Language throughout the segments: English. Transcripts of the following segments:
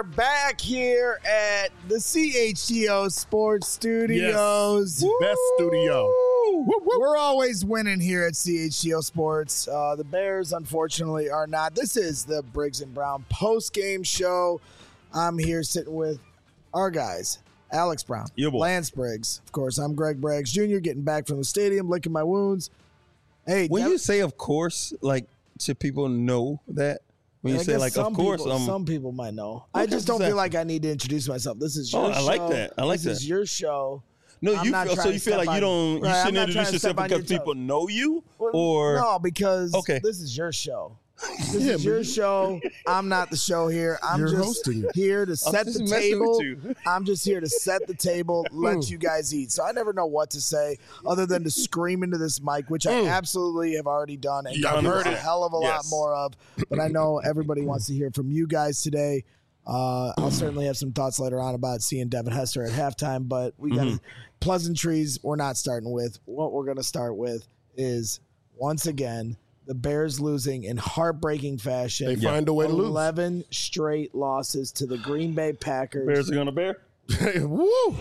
are back here at the CHGO Sports Studios. Yes, best studio. We're always winning here at CHGO Sports. The Bears, unfortunately, are not. This is the Briggs and Brown post-game show. I'm here sitting with our guys, Alex Brown, Lance Briggs. Of course, I'm Greg Braggs Jr., getting back from the stadium, licking my wounds. Hey, when you say of course, like, should people know that? When you say like, of course, some people might know. I just don't feel like I need to introduce myself. This is your show. I like that. This is your show. No, you feel like you shouldn't introduce yourself because people know you, or no, because this is your show. This is your show. I'm not the show here. I'm just here to set the table. I'm just here to set the table, let you guys eat. So I never know what to say other than to scream into this mic, which I absolutely have already done and heard a hell of a lot more of. But I know everybody wants to hear from you guys today. I'll certainly have some thoughts later on about seeing Devin Hester at halftime, but we got pleasantries we're not starting with. What we're going to start with is, once again, the Bears losing in heartbreaking fashion. They find a way to lose. 11 straight losses to the Green Bay Packers. Bears are going to bear. Woo!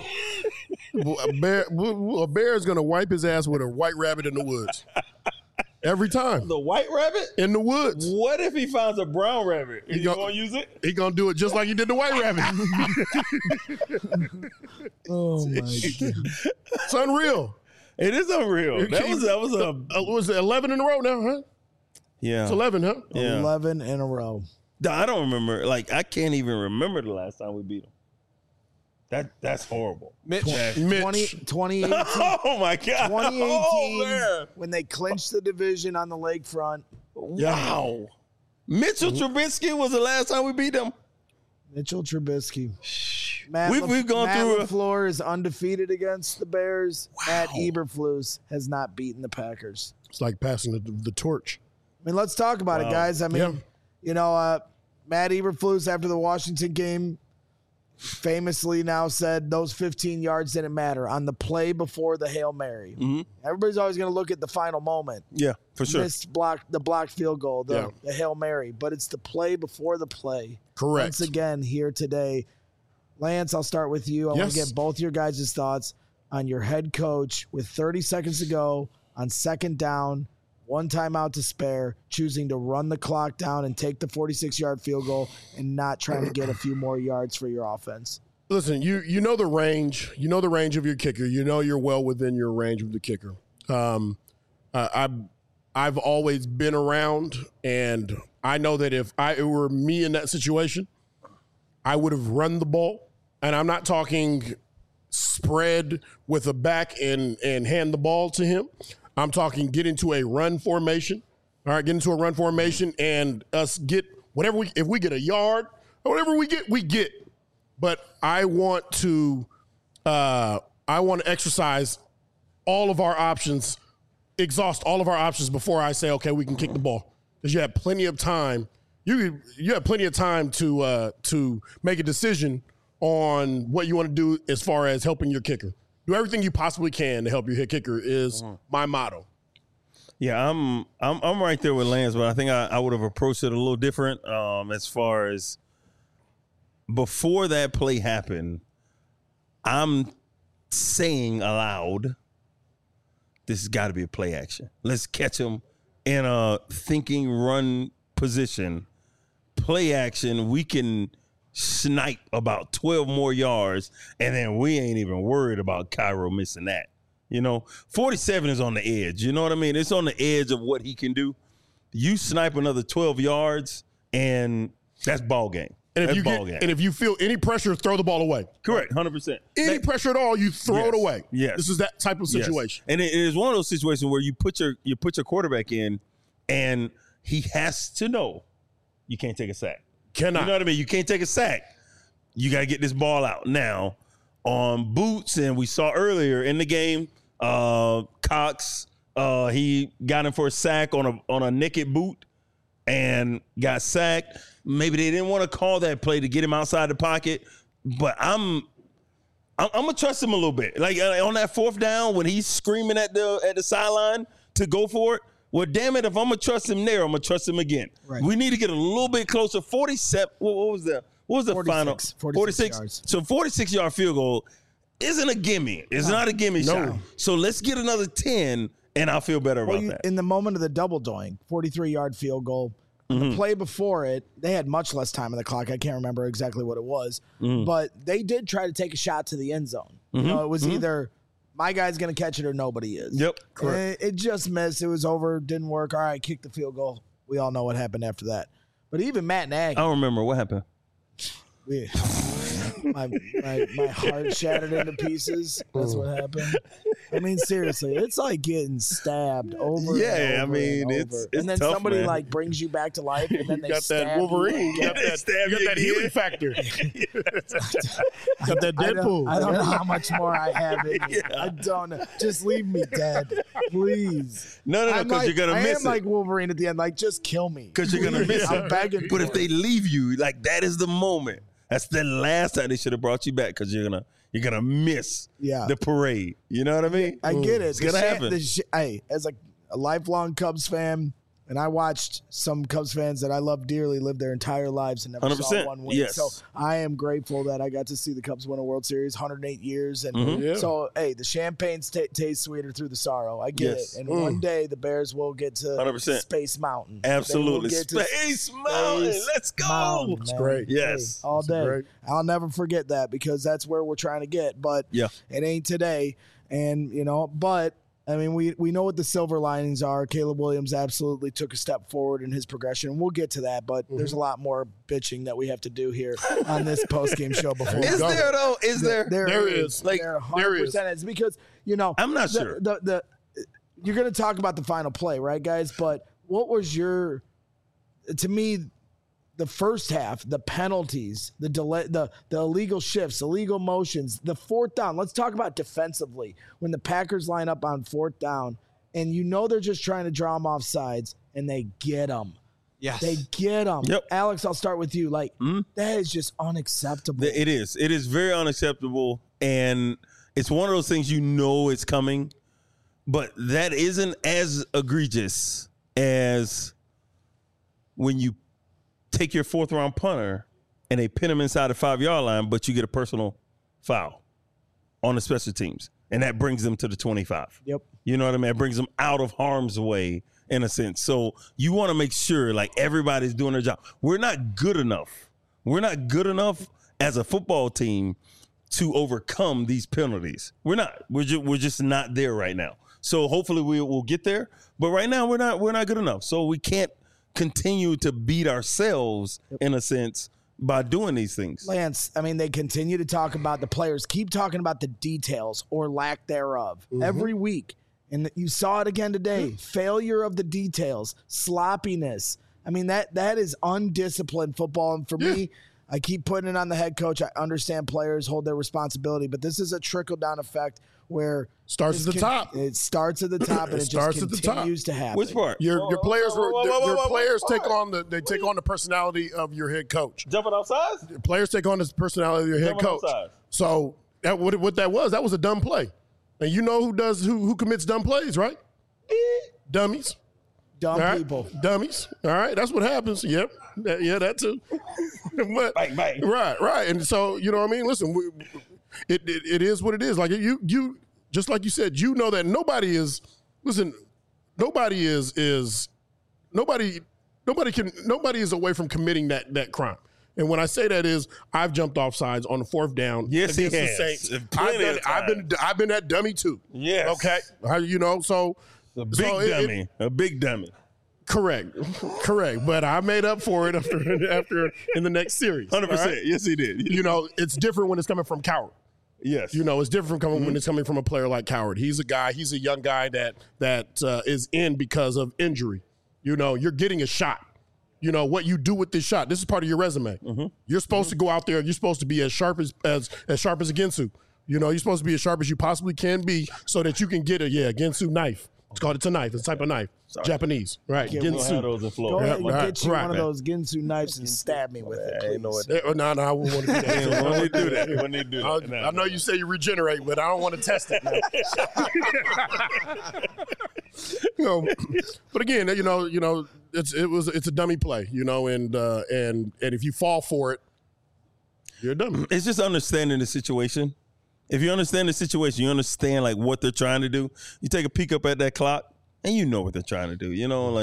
A bear is going to wipe his ass with a white rabbit in the woods. Every time. The white rabbit? In the woods. What if he finds a brown rabbit? Is he going to use it? He going to do it just like he did the white rabbit. Oh, my God. It's unreal. It is unreal. That was 11 in a row now, huh? Yeah. It's 11, huh? Yeah. 11 in a row. I don't remember. Like, I can't even remember the last time we beat them. That's horrible. Mitch. 2018. Oh, my God. 2018, when they clinched the division on the lakefront. Wow. Mitchell Trubisky was the last time we beat them. Mitchell Trubisky. We've gone through LaFleur is undefeated against the Bears. Wow. Matt Eberflus has not beaten the Packers. It's like passing the torch. I mean, let's talk about it, guys. I mean, Matt Eberflus, after the Washington game, famously now said those 15 yards didn't matter on the play before the Hail Mary. Mm-hmm. Everybody's always going to look at the final moment. Yeah, for sure. The blocked field goal, the Hail Mary. But it's the play before the play. Correct. Once again, here today. Lance, I'll start with you. I want to get both your guys' thoughts on your head coach with 30 seconds to go on second down, one timeout to spare, choosing to run the clock down and take the 46-yard field goal and not trying to get a few more yards for your offense. Listen, you know the range. You know the range of your kicker. You know you're well within your range of the kicker. I've always been around, and I know that if it were me in that situation, I would have run the ball. And I'm not talking spread with a back and hand the ball to him. I'm talking get into a run formation. All right, get into a run formation and us get whatever if we get a yard, whatever we get. But I want to exercise all of our options, exhaust all of our options before I say, okay, we can kick the ball. Because you have plenty of time. You have plenty of time to make a decision on what you want to do as far as helping your kicker. Do everything you possibly can to help your kicker is my motto. Yeah, I'm right there with Lance, but I think I would have approached it a little different as far as before that play happened. I'm saying aloud, this has got to be a play action. Let's catch him in a thinking run position. Play action, we can snipe about 12 more yards, and then we ain't even worried about Cairo missing that. 47 is on the edge. You know what I mean? It's on the edge of what he can do. You snipe another 12 yards, and that's ball game. And if you feel any pressure, throw the ball away. Correct, 100%. Any pressure at all, you throw it away. Yes. This is that type of situation. Yes. And it is one of those situations where you put your quarterback in, and he has to know you can't take a sack. Cannot. You know what I mean? You can't take a sack. You got to get this ball out. Now, on boots, and we saw earlier in the game, Cox, he got him for a sack on a naked boot and got sacked. Maybe they didn't want to call that play to get him outside the pocket, but I'm gonna trust him a little bit. Like on that fourth down when he's screaming at the sideline to go for it. Well, damn it, if I'm going to trust him there, I'm going to trust him again. Right. We need to get a little bit closer. 47, what was that? What was the 46, final? 46 yards. So 46-yard field goal isn't a gimme. It's not a gimme shot. So let's get another 10, and I'll feel better about that. In the moment of the double doing, 43-yard field goal. The play before it, they had much less time on the clock. I can't remember exactly what it was, but they did try to take a shot to the end zone. You know, it was either my guy's going to catch it or nobody is. Yep, correct. It just missed. It was over. Didn't work. All right, kick the field goal. We all know what happened after that. But even Matt Nagy. I don't remember what happened. My heart shattered into pieces. That's what happened. I mean, seriously, it's like getting stabbed over. Yeah, and over it's and then tough, somebody man. like brings you back to life, and then they got stab that Wolverine. You. You got that healing factor. Got that Deadpool. I don't know how much more I have in me. I don't know. Just leave me dead, please. No, because you're gonna miss it. I am like Wolverine at the end. Like, just kill me. Because you're gonna miss it. I'm begging. But if they leave you, like that is the moment. That's the last time they should have brought you back because you're gonna miss the parade. You know what I mean? I get it. It's gonna happen. Hey, as a lifelong Cubs fan, and I watched some Cubs fans that I love dearly live their entire lives and never 100%. saw one win. Yes. So I am grateful that I got to see the Cubs win a World Series, 108 years. And so, hey, the champagne's tastes sweeter through the sorrow. I get it. And one day the Bears will get to 100%. Space Mountain. Absolutely. Space Mountain. Let's go. It's great. Yes. Hey, all day. Great. I'll never forget that because that's where we're trying to get. But it ain't today. And, but I mean, we know what the silver linings are. Caleb Williams absolutely took a step forward in his progression. We'll get to that, but there's a lot more bitching that we have to do here on this postgame show before we Is go. there, though? Is there? There is. Like, there 100% is. Because, I'm not sure. You're going to talk about the final play, right, guys? But what was to me, the first half, the penalties, the delay, the illegal shifts, illegal motions, the fourth down. Let's talk about defensively. When the Packers line up on fourth down, and they're just trying to draw them off sides, and they get them. Yes. They get them. Yep. Alex, I'll start with you. Like, that is just unacceptable. It is. It is very unacceptable, and it's one of those things it's coming, but that isn't as egregious as when you take your fourth-round punter and they pin him inside the 5-yard line, but you get a personal foul on the special teams, and that brings them to the 25. Yep. You know what I mean? It brings them out of harm's way in a sense. So you want to make sure, like, everybody's doing their job. We're not good enough. We're not good enough as a football team to overcome these penalties. We're not. We're just not there right now. So hopefully we'll get there. But right now we're not good enough. So we can't continue to beat ourselves in a sense by doing these things. Lance, I mean, they continue to talk about the players, keep talking about the details or lack thereof every week. And you saw it again today. Failure of the details, sloppiness. I mean, that is undisciplined football. And for me, I keep putting it on the head coach. I understand players hold their responsibility, but this is a trickle-down effect where starts at the top. It starts at the top, and it just continues to happen. Which part? Your players take on the personality of your head coach. Jumping off sides? Players take on the personality of your head coach. So what that was a dumb play. And you know who commits dumb plays, right? Dummies. Dumb people. Dummies. All right. That's what happens. Yep. Yeah, that too. But, bang. Right. And so, you know what I mean? Listen, it is what it is. Like you just like you said, you know that nobody is away from committing that crime. And when I say that is, I've jumped off sides on the fourth down. Yes, he has. The Saints. I've been that dummy too. Yes. Okay. So a big dummy. Correct. But I made up for it after in the next series. 100%. Right? Yes, he did. It's different when it's coming from Coward. Yes. It's different when it's coming from a player like Coward. He's a young guy that is in because of injury. You're getting a shot. What you do with this shot. This is part of your resume. You're supposed to go out there. You're supposed to be as sharp as Ginsu. You're supposed to be as sharp as you possibly can be so that you can get a Ginsu knife. It's a knife. It's a type of knife. Sorry. Japanese. Right. Ginsu. Go ahead and get you one of those Ginsu knives and stab me with it, please. No, I wouldn't want to do that. When they do that. I know you say you regenerate, but I don't want to test it now. But again, it's a dummy play, and if you fall for it, You're dumb. It's just understanding the situation. If you understand the situation, you understand like what they're trying to do. You take a peek up at that clock, and you know what they're trying to do. You know,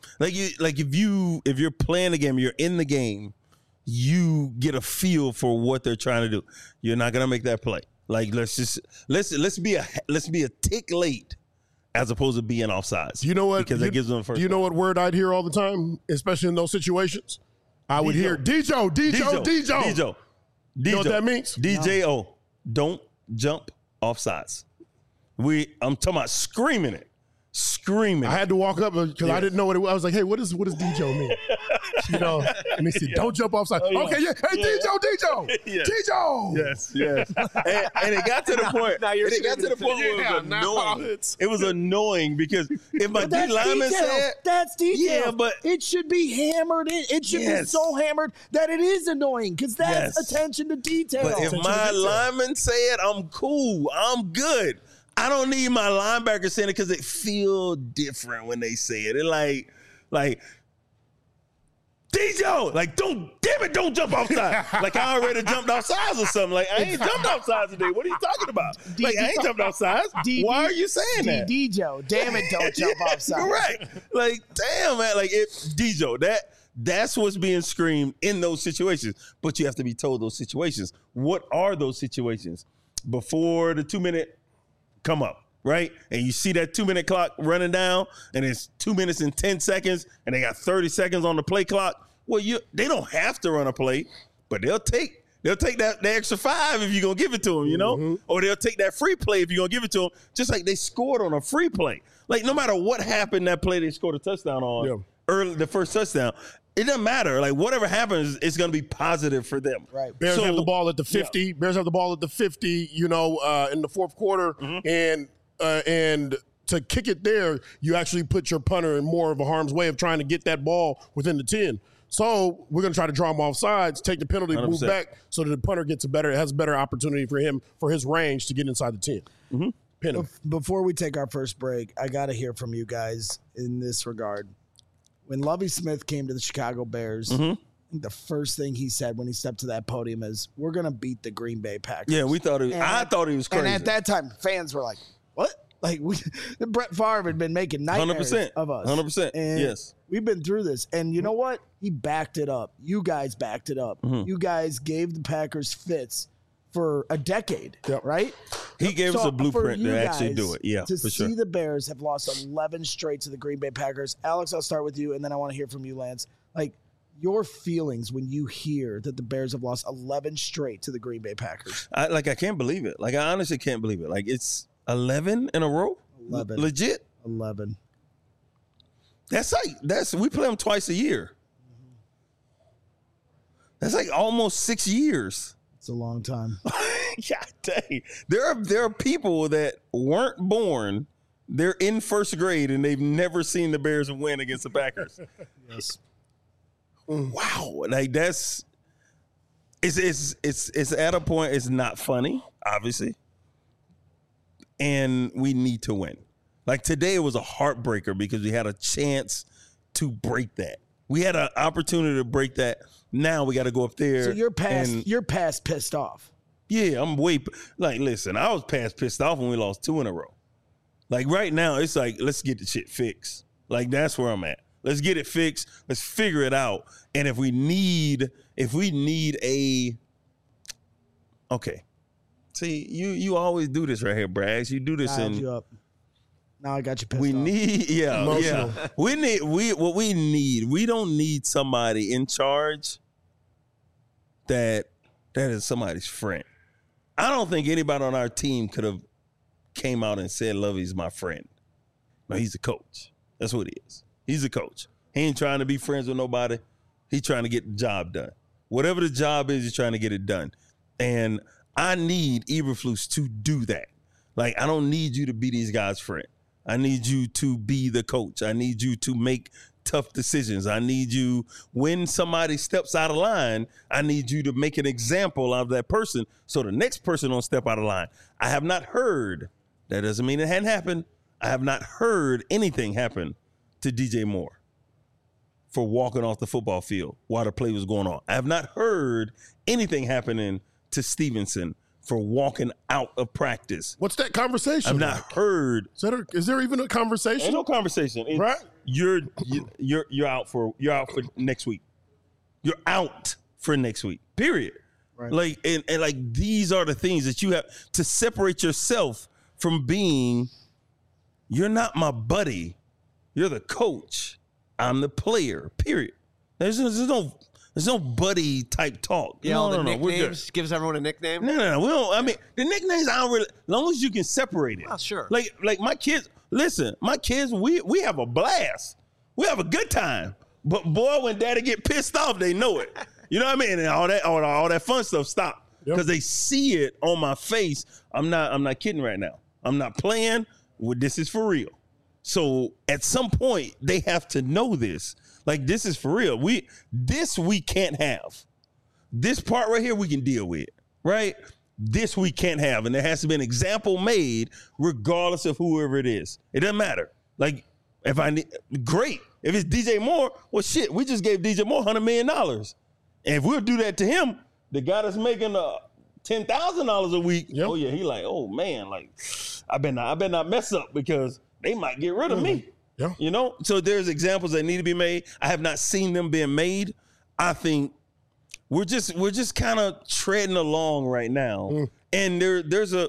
if you're playing the game, you're in the game, you get a feel for what they're trying to do. You're not gonna make that play. Like let's be a tick late as opposed to being offsides. You know what? Because that gives them the first. You know what word I'd hear all the time, especially in those situations? I would hear Dijo. You know what that means? DJO. Don't jump offsides. I'm talking about screaming it. Screaming. I had to walk up because I didn't know what it was. I was like, hey, what does Dijo mean? You know, and they said, don't jump offside. Oh, yeah. Okay, yeah. Hey, Dijo. Yes. Dijo. Yes. and it got to the point. Where it was annoying. It was annoying because if my D lineman said, that's detail. Yeah, but it should be hammered in. It should be so hammered that it is annoying because that's attention to detail. But if my lineman said, I'm cool, I'm good. I don't need my linebacker saying it because it feel different when they say it. It like Dijo, like don't jump offside. Like I already jumped offsides or something. Like I ain't jumped offsides today. What are you talking about? Like I ain't jumped offsides. Why are you saying that? Dijo, damn it, don't jump offside. Correct. Like damn man, like Dijo, that's what's being screamed in those situations. But you have to be told those situations. What are those situations? Before the 2-minute come up, right? And you see that 2-minute clock running down and it's 2 minutes and 10 seconds and they got 30 seconds on the play clock. Well, they don't have to run a play, but they'll take that extra 5 if you're going to give it to them, you know? Or they'll take that free play if you're going to give it to them, just like they scored on a free play. Like no matter what happened that play they scored a touchdown on, early the first touchdown, it doesn't matter. Like whatever happens, it's going to be positive for them. Right. Bears have the ball at the 50. Yeah. Bears have the ball at the 50. You know, in the fourth quarter, and to kick it there, you actually put your punter in more of a harm's way of trying to get that ball within the 10. So we're going to try to draw him off sides, take the penalty, 100%. Move back, so that the punter has a better opportunity for his range to get inside the 10. Pin him. Before we take our first break, I got to hear from you guys in this regard. When Lovie Smith came to the Chicago Bears, I think the first thing he said when he stepped to that podium is, we're going to beat the Green Bay Packers. Yeah, I thought he was crazy. And at that time, fans were like, what? Like, Brett Favre had been making nightmares 100%, of us. 100%, and yes. We've been through this. And you know what? He backed it up. You guys backed it up. You guys gave the Packers fits for a decade, right? He gave us a blueprint to actually do it. Yeah, to see the Bears have lost 11 straight to the Green Bay Packers. Alex, I'll start with you, and then I want to hear from you, Lance. Like, your feelings when you hear that the Bears have lost 11 straight to the Green Bay Packers. I can't believe it. Like, I honestly can't believe it. Like, it's 11 in a row? 11. Legit? 11. We play them twice a year. That's like almost 6 years. It's a long time. God dang. There are people that weren't born, they're in first grade, and they've never seen the Bears win against the Packers. Yes. Wow. Like it's at a point, it's not funny, obviously. And we need to win. Like today, it was a heartbreaker because we had a chance to break that. We had an opportunity to break that. Now we got to go up there. So you're past pissed off. Yeah, I'm listen, I was past pissed off when we lost 2 in a row. Like right now, it's like, let's get the shit fixed. Like that's where I'm at. Let's get it fixed. Let's figure it out. And if we need okay. See, you always do this right here, Braggs. You do this you up. Now I got you pissed off. Emotional. We don't need somebody in charge that is somebody's friend. I don't think anybody on our team could have came out and said Lovey's my friend. No, he's a coach. That's what he is. He's a coach. He ain't trying to be friends with nobody. He's trying to get the job done. Whatever the job is, he's trying to get it done. And I need Eberflus to do that. Like, I don't need you to be these guys' friend. I need you to be the coach. I need you to make tough decisions. I need you, when somebody steps out of line, I need you to make an example of that person so the next person don't step out of line. I have not heard, that doesn't mean it hadn't happened, I have not heard anything happen to DJ Moore for walking off the football field while the play was going on. I have not heard anything happening to Stevenson for walking out of practice. What's that conversation? I've not heard. Is there even a conversation? Ain't no conversation. It's, right? You're out for next week. You're out for next week. Period. Right. Like and like these are the things that you have to separate yourself from being. You're not my buddy. You're the coach. I'm the player. Period. There's no buddy type talk. Yeah, all the nicknames gives everyone a nickname. No. We don't. I mean, the nicknames I don't really. As long as you can separate it. Oh, sure. Like my kids. Listen, my kids. We have a blast. We have a good time. But boy, when daddy get pissed off, they know it. You know what I mean? And all that fun stuff stop because they see it on my face. I'm not kidding right now. I'm not playing. Well, this is for real. So at some point, they have to know this. Like, this is for real. We can't have. This part right here we can deal with, right? This we can't have. And there has to be an example made regardless of whoever it is. It doesn't matter. Like, great. If it's DJ Moore, well, shit, we just gave DJ Moore $100 million. And if we'll do that to him, the guy that's making $10,000 a week, oh, yeah, he like, oh, man, like, I better not mess up because they might get rid of me. Yeah. You know? So there's examples that need to be made. I have not seen them being made. I think we're just kind of treading along right now. And there's a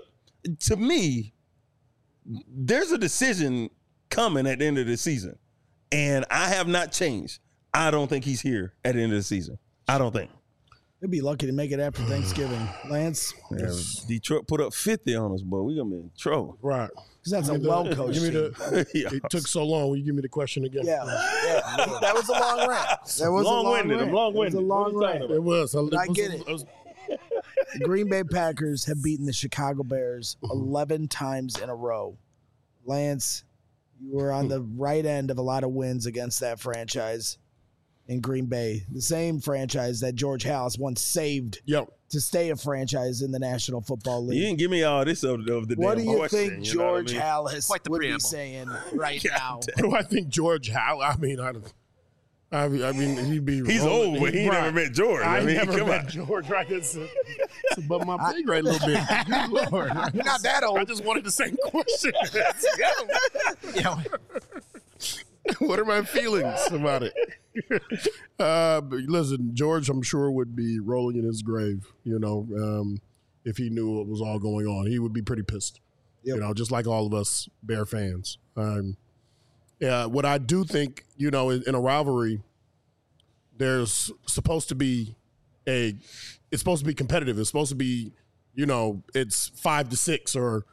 decision coming at the end of the season. And I have not changed. I don't think he's here at the end of the season. I don't think. They'll be lucky to make it after Thanksgiving. Lance? Yeah, Detroit put up 50 on us, boy. We're going to be in trouble. Right. Because that's a well-coached team. It took so long. Will you give me the question again? Yeah. That was a long rant. That was long-winded. a long rant. It was a long rant. It was. I get it. The Green Bay Packers have beaten the Chicago Bears 11 times in a row. Lance, you were on the right end of a lot of wins against that franchise in Green Bay. The same franchise that George Halas once saved to stay a franchise in the National Football League. You didn't give me all this of the What damn do you question, think George Halas would preamble. be saying right now? What do I think George Halas? I mean, he'd be. He's old, but he never met George. I mean, never met George. Right? It's above my pay grade a little bit. Good Lord. You're not that old. I just wanted the same question. Yeah. What are my feelings about it? But listen, George, I'm sure would be rolling in his grave. You know, if he knew what was all going on, he would be pretty pissed. You know, just like all of us Bear fans. What I do think, you know, in a rivalry, there's supposed to be it's supposed to be competitive. It's supposed to be, you know, it's 5-6 or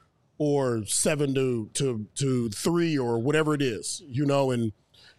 7-3 or whatever it is, you know, and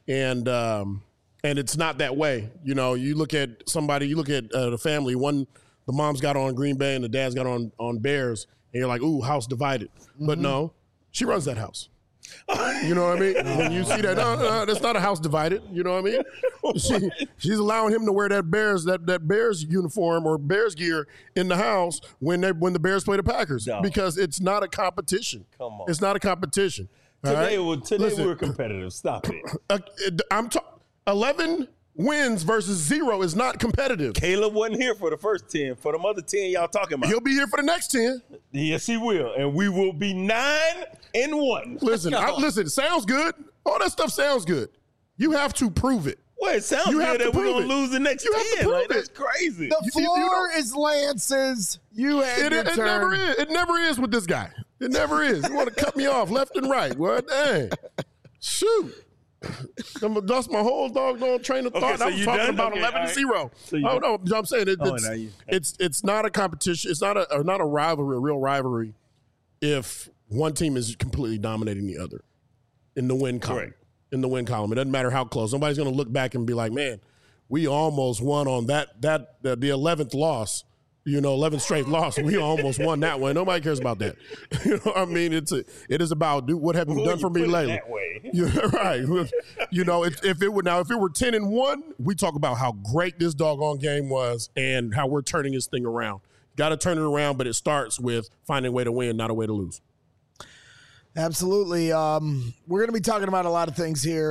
it's not that way. You know, you look at the family, the mom's got on Green Bay and the dad's got on Bears, and you're like, ooh, house divided. But no, she runs that house. You know what I mean? When you see that, no, that's not a house divided. You know what I mean? She's allowing him to wear that Bears uniform or Bears gear in the house when the Bears play the Packers because it's not a competition. Come on, it's not a competition. Today we're competitive. Stop it. 11 wins versus 0 is not competitive. Caleb wasn't here for the first 10. For them other 10 y'all talking about, he'll be here for the next 10. Yes, he will, and we will be 9-1. Listen, sounds good. All that stuff sounds good. You have to prove it. Well, it sounds good that we're going to lose the next 10. Like, that's crazy. The floor is Lance's. You had your turn. It never is with this guy. It never is. You want to cut me off left and right. What? Dang. Shoot. I'm going to dust my whole doggone train of thought. So I was talking about 11-0. No, I'm saying it's not a competition. It's not a rivalry, a real rivalry, if one team is completely dominating the other in the win column. Correct. In the win column. It doesn't matter how close. Nobody's going to look back and be like, man, we almost won on the 11th loss. You know, 11th straight loss. We almost won that one. Nobody cares about that. You know what I mean? It is about what have you done for me lately? That way. Yeah, right. You know, if it were 10-1, we talk about how great this doggone game was and how we're turning this thing around. Got to turn it around, but it starts with finding a way to win, not a way to lose. Absolutely. We're going to be talking about a lot of things here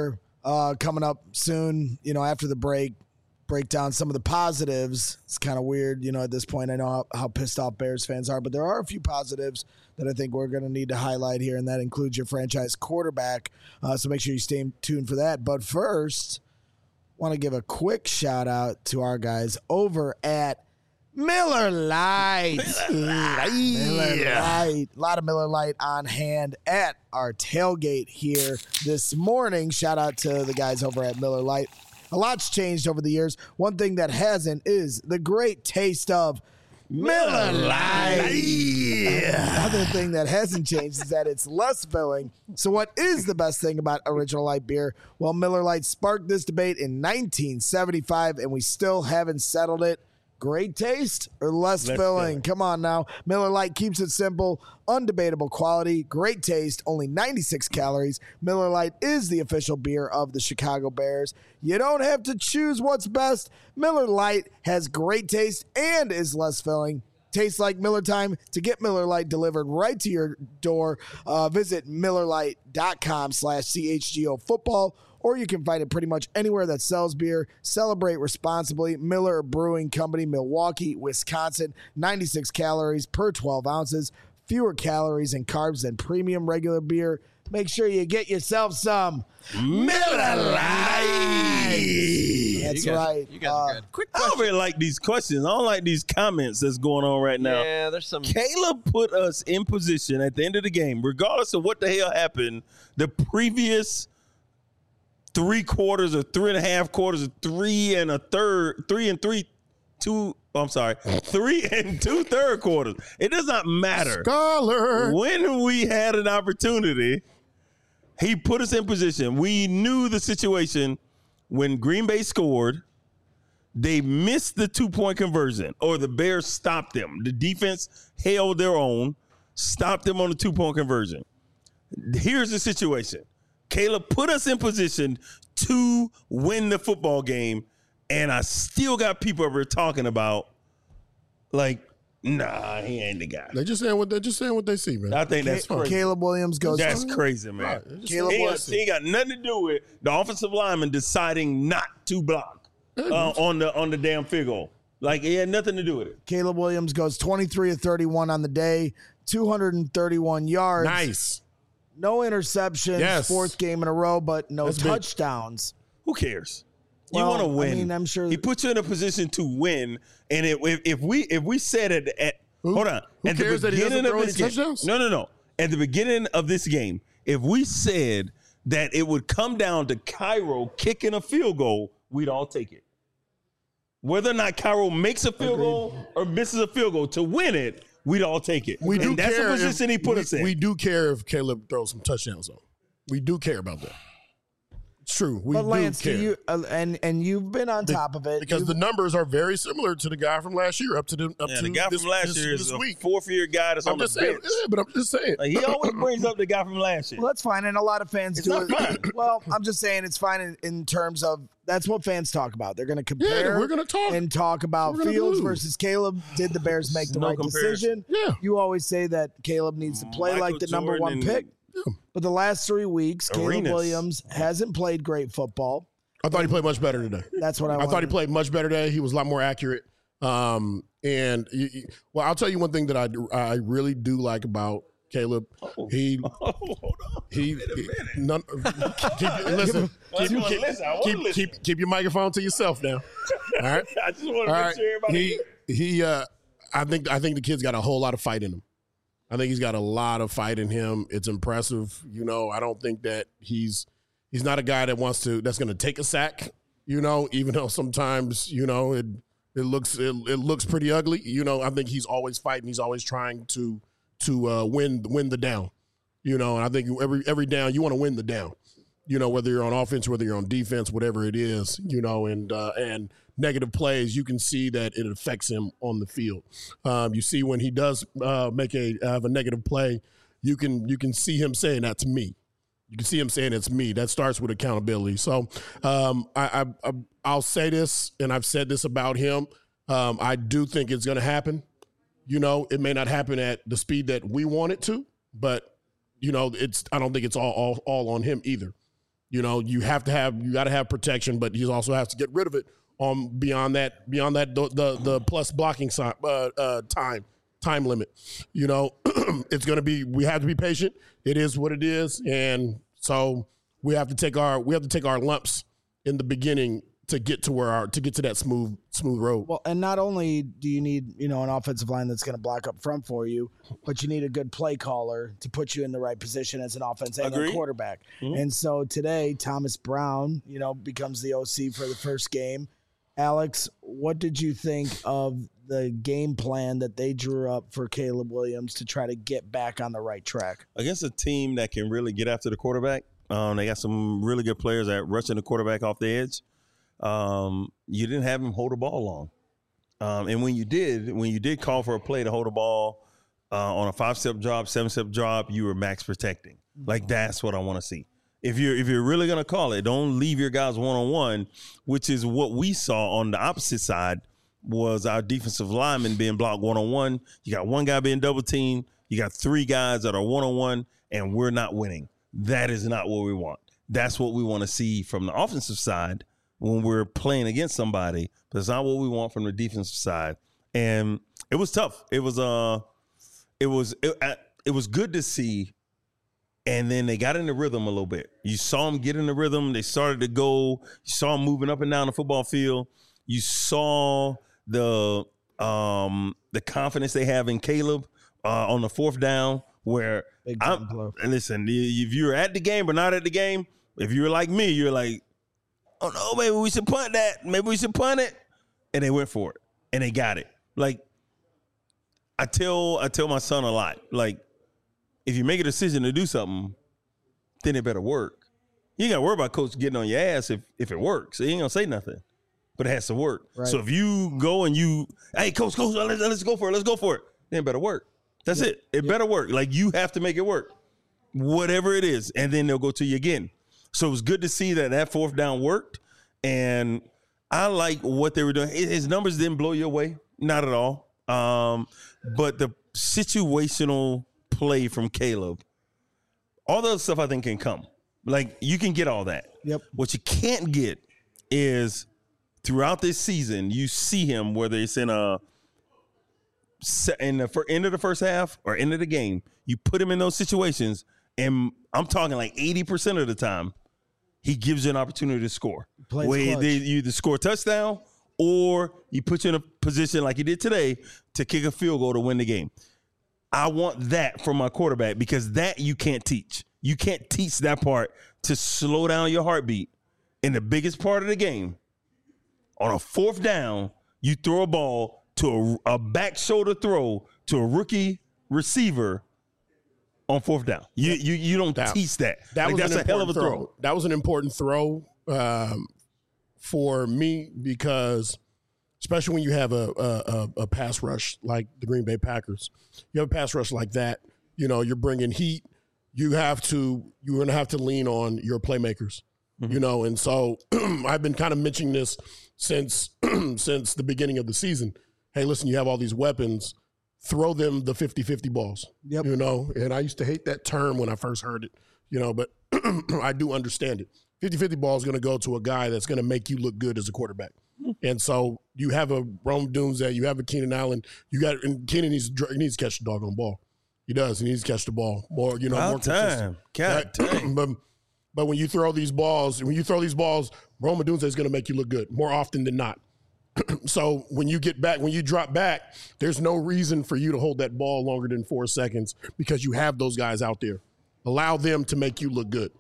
coming up soon, after the break down some of the positives. It's kind of weird, at this point. I know how pissed off Bears fans are, but there are a few positives that I think we're going to need to highlight here, and that includes your franchise quarterback. So make sure you stay tuned for that. But first, want to give a quick shout out to our guys over at Miller Lite. Miller Lite. A lot of Miller Lite on hand at our tailgate here this morning. Shout out to the guys over at Miller Lite. A lot's changed over the years. One thing that hasn't is the great taste of Miller Lite. Another thing that hasn't changed is that it's less filling. So what is the best thing about Original Light beer? Well, Miller Lite sparked this debate in 1975, and we still haven't settled it. Great taste or less filling? Come on now. Miller Lite keeps it simple, undebatable quality, great taste, only 96 calories. Miller Lite is the official beer of the Chicago Bears. You don't have to choose what's best. Miller Lite has great taste and is less filling. Tastes like Miller time. To get Miller Lite delivered right to your door, visit MillerLite.com/CHGO football, or you can find it pretty much anywhere that sells beer. Celebrate responsibly. Miller Brewing Company, Milwaukee, Wisconsin. 96 calories per 12 ounces. Fewer calories and carbs than premium regular beer. Make sure you get yourself some Miller Lite. That's right. You guys are good. Quick I question. don't really like these questions. I don't like these comments that's going on right now. Yeah, there's some. Caleb put us in position at the end of the game, regardless of what the hell happened, the previous 3 quarters or 3.5 quarters or 3 and 2/3 quarters. It does not matter. Scholar. When we had an opportunity, he put us in position. We knew the situation when Green Bay scored. They missed the 2-point conversion, or the Bears stopped them. The defense held their own, stopped them on the 2-point conversion. Here's the situation. Caleb put us in position to win the football game, and I still got people over here talking about, like, nah, he ain't the guy. They're just saying what they see, man. I think that's crazy. Caleb Williams goes. That's crazy, man. Right. Caleb Williams. He ain't got nothing to do with the offensive lineman deciding not to block on the damn field goal. Like, it had nothing to do with it. Caleb Williams goes 23 of 31 on the day, 231 yards. Nice. No interceptions, Yes. 4th game in a row, but no That's big. touchdowns. Who cares? Well, You want to win. I mean, I'm sure he put you in a position to win. And if we said it at hold on, Who at cares the that he doesn't beginning throw of any this game, touchdowns? no. At the beginning of this game, if we said that it would come down to Cairo kicking a field goal, we'd all take it. Whether or not Cairo makes a field goal or misses a field goal to win it, we'd all take it. We do and that's care the position he put us in. We do care if Caleb throws some touchdowns on. We do care about that. It's true. We But Lance, do care. you and you've been on top of it because the numbers are very similar to the guy from last year up to the guy this, from last this, year this is a week. 4th-year guy that's I'm on the just saying, bench. yeah, but I'm just saying. Like, he always brings up the guy from last year. Well, that's fine, and a lot of fans It's do not it. fine. Well, I'm just saying it's fine in terms of that's what fans talk about. They're going to compare. we're gonna talk. and talk about We're gonna Fields do. versus Caleb. Did the Bears make the No right comparison. decision? Yeah. You always say that Caleb needs to play Michael like the number Jordan 1 pick. Yeah. But the last 3 weeks, Caleb Arenas. Williams hasn't played great football. I thought he played much better today. That's what I thought he wanted. played much better today. He was a lot more accurate. Well, I'll tell you one thing that I really do like about Caleb. He Hold on. he Wait a minute. none, keep your microphone to yourself now. All right. I just want All to right. make sure everybody. I think the kid's got a whole lot of fight in him. I think he's got a lot of fight in him. It's impressive. I don't think that he's not a guy that's going to take a sack, even though sometimes, it looks pretty ugly. I think he's always fighting. He's always trying to win the down, and I think every down, you want to win the down, whether you're on offense, whether you're on defense, whatever it is, and negative plays, you can see that it affects him on the field. You see when he does have a negative play, you can see him saying, "That's me." You can see him saying, "It's me." That starts with accountability. So I'll say this, and I've said this about him. I do think it's going to happen. It may not happen at the speed that we want it to, but I don't think it's all on him either. You got to have protection, but he also has to get rid of it beyond that the plus blocking time limit. It's going to be, we have to be patient. It is what it is, and so we have to take our lumps in the beginning to get to that smooth road. Well, and not only do you need, an offensive line that's going to block up front for you, but you need a good play caller to put you in the right position as an offense and a quarterback. Mm-hmm. And so today, Thomas Brown, becomes the OC for the first game. Alex, what did you think of the game plan that they drew up for Caleb Williams to try to get back on the right track? Against a team that can really get after the quarterback, they got some really good players at rushing the quarterback off the edge. You didn't have him hold the ball long. And when you did call for a play to hold the ball on a 5-step drop, 7-step drop, you were max protecting. Like, that's what I want to see. If you're really going to call it, don't leave your guys one-on-one, which is what we saw on the opposite side was our defensive lineman being blocked one-on-one. You got one guy being double-teamed. You got 3 guys that are one-on-one, and we're not winning. That is not what we want. That's what we want to see from the offensive side when we're playing against somebody, but it's not what we want from the defensive side. And it was tough. It was good to see. And then they got in the rhythm a little bit. You saw them get in the rhythm. They started to go. You saw them moving up and down the football field. You saw the confidence they have in Caleb on the 4th down. Where and listen, if you're at the game but not at the game, if you're like me, you're like, oh no, maybe we should punt that. Maybe we should punt it. And they went for it. And they got it. Like, I tell my son a lot, like, if you make a decision to do something, then it better work. You ain't got to worry about coach getting on your ass if it works. He ain't going to say nothing, but it has to work. Right. So if you go and hey, coach, let's go for it. Let's go for it. Then it better work. That's it. It better work. Like, you have to make it work, whatever it is. And then they'll go to you again. So it was good to see that 4th down worked. And I like what they were doing. His numbers didn't blow you away. Not at all. But the situational play from Caleb, all the other stuff I think can come. Like, you can get all that. Yep. What you can't get is throughout this season, you see him, whether it's in the end of the first half or end of the game, you put him in those situations, and I'm talking like 80% of the time, he gives you an opportunity to score. Where you either score a touchdown or you put you in a position like he did today to kick a field goal to win the game. I want that from my quarterback, because that you can't teach. You can't teach that part, to slow down your heartbeat in the biggest part of the game. On a 4th down, you throw a ball to a back shoulder throw to a rookie receiver on 4th down. You don't teach that. That's a hell of a throw. That was an important throw for me, because especially when you have a pass rush like the Green Bay Packers. You have a pass rush like that, you're bringing heat. You're going to have to lean on your playmakers, and so I've been kind of mentioning this since the beginning of the season. Hey, listen, you have all these weapons. Throw them the 50-50 balls, and I used to hate that term when I first heard it, but I do understand it. 50-50 ball is going to go to a guy that's going to make you look good as a quarterback. And so you have a Rome Dunze, you have a Keenan Allen, and Keenan needs to catch the doggone ball. He does. He needs to catch the ball more, more consistent. Right? But when you throw these balls, Rome Dunze is going to make you look good more often than not. So when you drop back, there's no reason for you to hold that ball longer than 4 seconds, because you have those guys out there. Allow them to make you look good.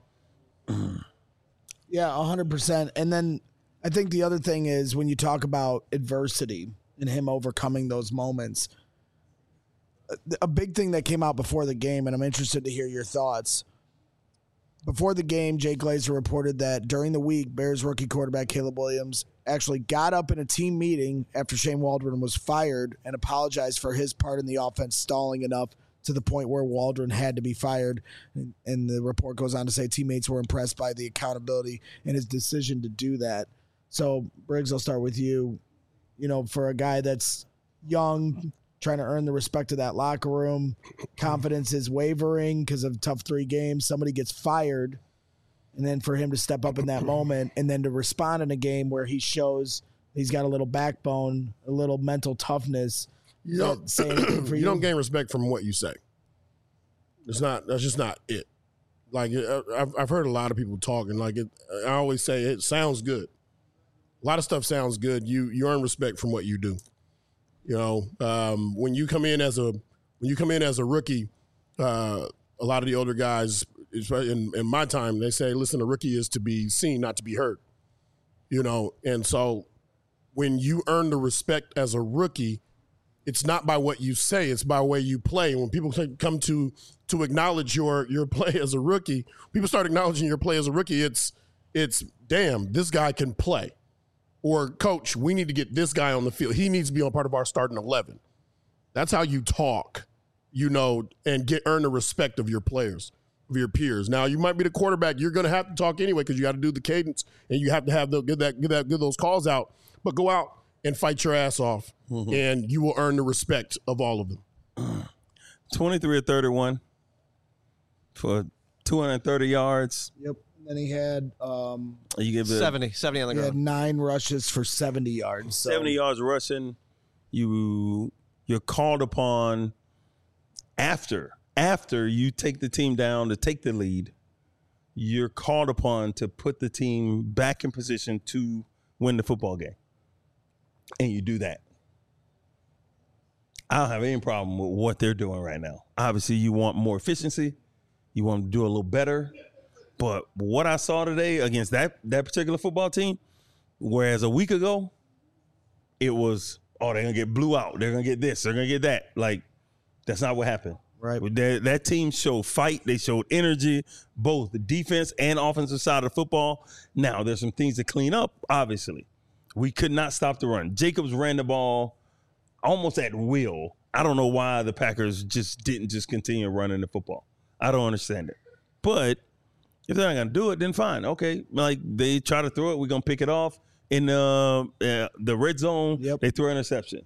Yeah, 100%. And then I think the other thing is, when you talk about adversity and him overcoming those moments, a big thing that came out before the game, and I'm interested to hear your thoughts. Before the game, Jay Glazer reported that during the week, Bears rookie quarterback Caleb Williams actually got up in a team meeting after Shane Waldron was fired and apologized for his part in the offense stalling enough to the point where Waldron had to be fired. And the report goes on to say teammates were impressed by the accountability and his decision to do that. So, Briggs, I'll start with you. For a guy that's young, trying to earn the respect of that locker room, confidence is wavering because of tough 3 games. Somebody gets fired. And then for him to step up in that moment and then to respond in a game where he shows he's got a little backbone, a little mental toughness. You don't gain respect from what you say. That's just not it. Like, I've heard a lot of people talking. Like, I always say it sounds good. A lot of stuff sounds good. You earn respect from what you do. You know, when you come in as a rookie, a lot of the older guys, in my time, they say, listen, a rookie is to be seen, not to be heard. You know, and so when you earn the respect as a rookie, it's not by what you say, it's by the way you play. When people come to acknowledge your play as a rookie, people start acknowledging your play as a rookie, it's damn, this guy can play. Or, coach, we need to get this guy on the field. He needs to be on part of our starting 11. That's how you talk, you know, and earn the respect of your players, of your peers. Now, you might be the quarterback. You're going to have to talk anyway because you got to do the cadence and you have to have get those calls out. But go out and fight your ass off, and you will earn the respect of all of them. 23 of 31 for 230 yards. Yep. And then he had 70 on the ground. He had 9 rushes for 70 yards. So. 70 yards rushing. You're called upon after you take the team down to take the lead. You're called upon to put the team back in position to win the football game. And you do that. I don't have any problem with what they're doing right now. Obviously, you want more efficiency. You want to do a little better. But what I saw today against that particular football team, whereas a week ago, it was, they're going to get blew out. They're going to get this. They're going to get that. Like, that's not what happened. Right. That team showed fight. They showed energy, both the defense and offensive side of the football. Now, there's some things to clean up, obviously. We could not stop the run. Jacobs ran the ball almost at will. I don't know why the Packers didn't continue running the football. I don't understand it. But if they're not going to do it, then fine. Okay. Like, they try to throw it. We're going to pick it off. In the red zone, They throw an interception.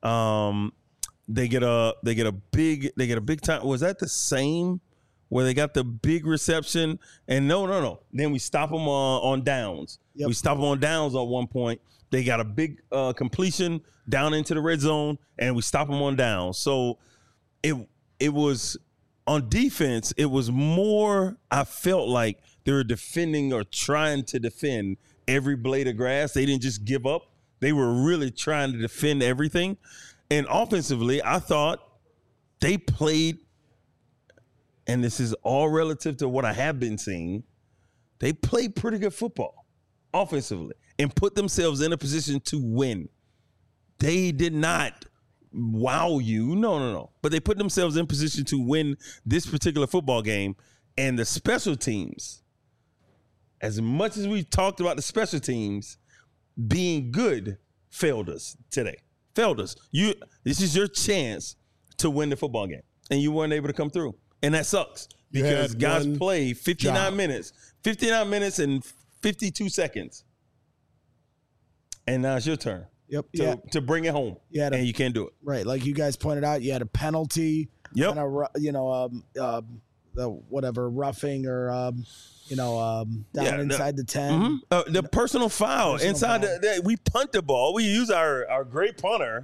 They get a big time. Was that the same where they got the big reception? And no. Then we stop them on downs. Yep. We stop them on downs at one point. They got a big completion down into the red zone, and we stop them on downs. So it was on defense. It was more. I felt like they were defending or trying to defend every blade of grass. They didn't just give up. They were really trying to defend everything. And offensively, I thought they played, and this is all relative to what I have been seeing, they played pretty good football offensively and put themselves in a position to win. They did not wow you. No. But they put themselves in position to win this particular football game. And the special teams, as much as we talked about the special teams being good, failed us today. Failed us. This is your chance to win the football game, and you weren't able to come through, and that sucks because guys play 59 minutes and 52 seconds, and now it's your turn. Yep. To bring it home, and you can't do it. Right, like you guys pointed out, you had a penalty. Yep. And the whatever roughing or down inside the 10. The personal foul inside. We punt the ball. We use our great punter.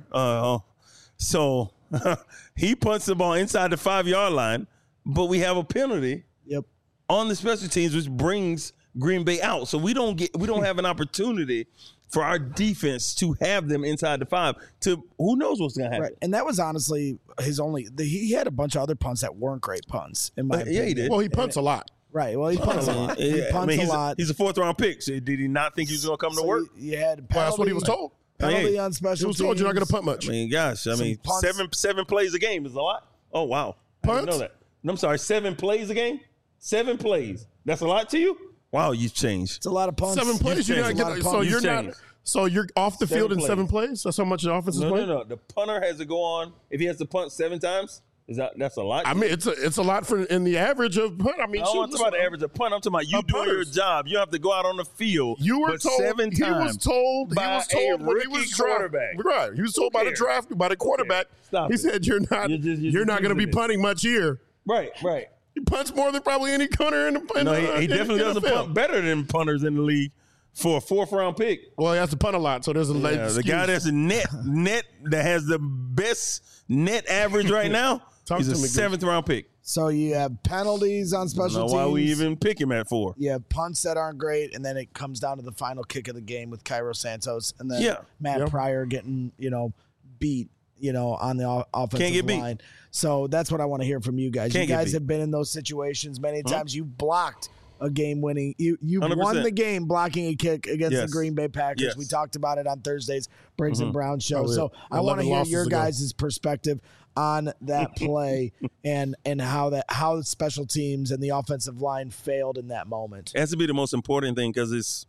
So he punts the ball inside the 5-yard line, but we have a penalty. Yep. On the special teams, which brings Green Bay out. So we don't have an opportunity for our defense to have them inside the 5. To who knows what's going to happen. Right. And that was honestly his only. He had a bunch of other punts that weren't great punts. In my opinion. Yeah, he did. Well, he punts a lot. Right. Well, he punts a lot. He punts a lot. He's a 4th-round pick. So did he not think he was going to come to work? You had penalty, that's what he was told. Penalty on special teams. He was told you're not going to punt much. I mean, gosh. Seven plays a game is a lot. Oh, wow. I didn't know that. I'm sorry, 7 plays a game? 7 plays. That's a lot to you? Wow, you've changed. It's a lot of punts. 7 plays. You're not getting. So you're not. So you're off the field in 7 plays? That's how much the offense is playing? No. The punter has to go on. If he has to punt 7 times, that's a lot? I mean, it's a lot for in the average of punt. I mean, I'm talking about the average of punt. I'm talking about you doing your job. You have to go out on the field. You were told 7 times. He was told by a rookie quarterback. Right. He was told by the quarterback. He said you're not going to be punting much here. Right. He punts more than probably any punter in the No, he definitely doesn't punt better than punters in the league for a 4th-round pick. Well, he has to punt a lot, so there's a the guy that's a net that has the best net average right now. He's a 7th-round pick. So you have penalties on special teams. Why we even pick him at 4? You have punts that aren't great, and then it comes down to the final kick of the game with Cairo Santos, and then Matt Pryor getting beat on the offensive line. So that's what I want to hear from you guys. You guys have been in those situations many times. You blocked a game-winning. You won the game blocking a kick against the Green Bay Packers. Yes. We talked about it on Thursday's Briggs and Brown show. So I want to hear your guys' perspective on that play and how the special teams and the offensive line failed in that moment. It has to be the most important thing because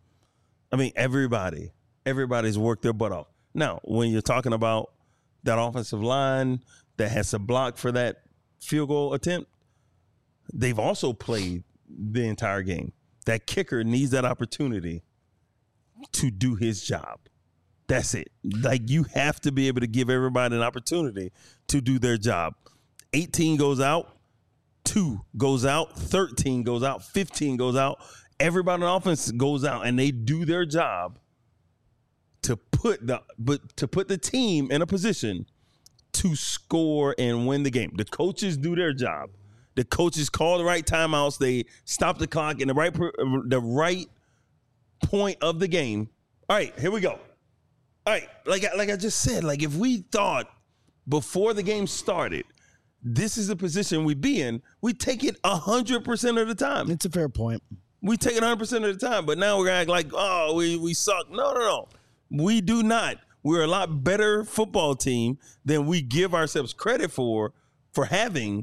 everybody's worked their butt off. Now, when you're talking about that offensive line that has to block for that field goal attempt, they've also played the entire game. That kicker needs that opportunity to do his job. That's it. Like, you have to be able to give everybody an opportunity to do their job. 18 goes out, 2 goes out, 13 goes out, 15 goes out. Everybody on offense goes out, and they do their job to put the team in a position to score and win the game. The coaches do their job. The coaches call the right timeouts. They stop the clock in the right point of the game. All right, here we go. All right, like I just said, like if we thought before the game started, this is the position we'd be in, we take it 100% of the time. It's a fair point. We take it 100% of the time, but now we're gonna act like, oh, we suck. No. We do not. We're a lot better football team than we give ourselves credit for having.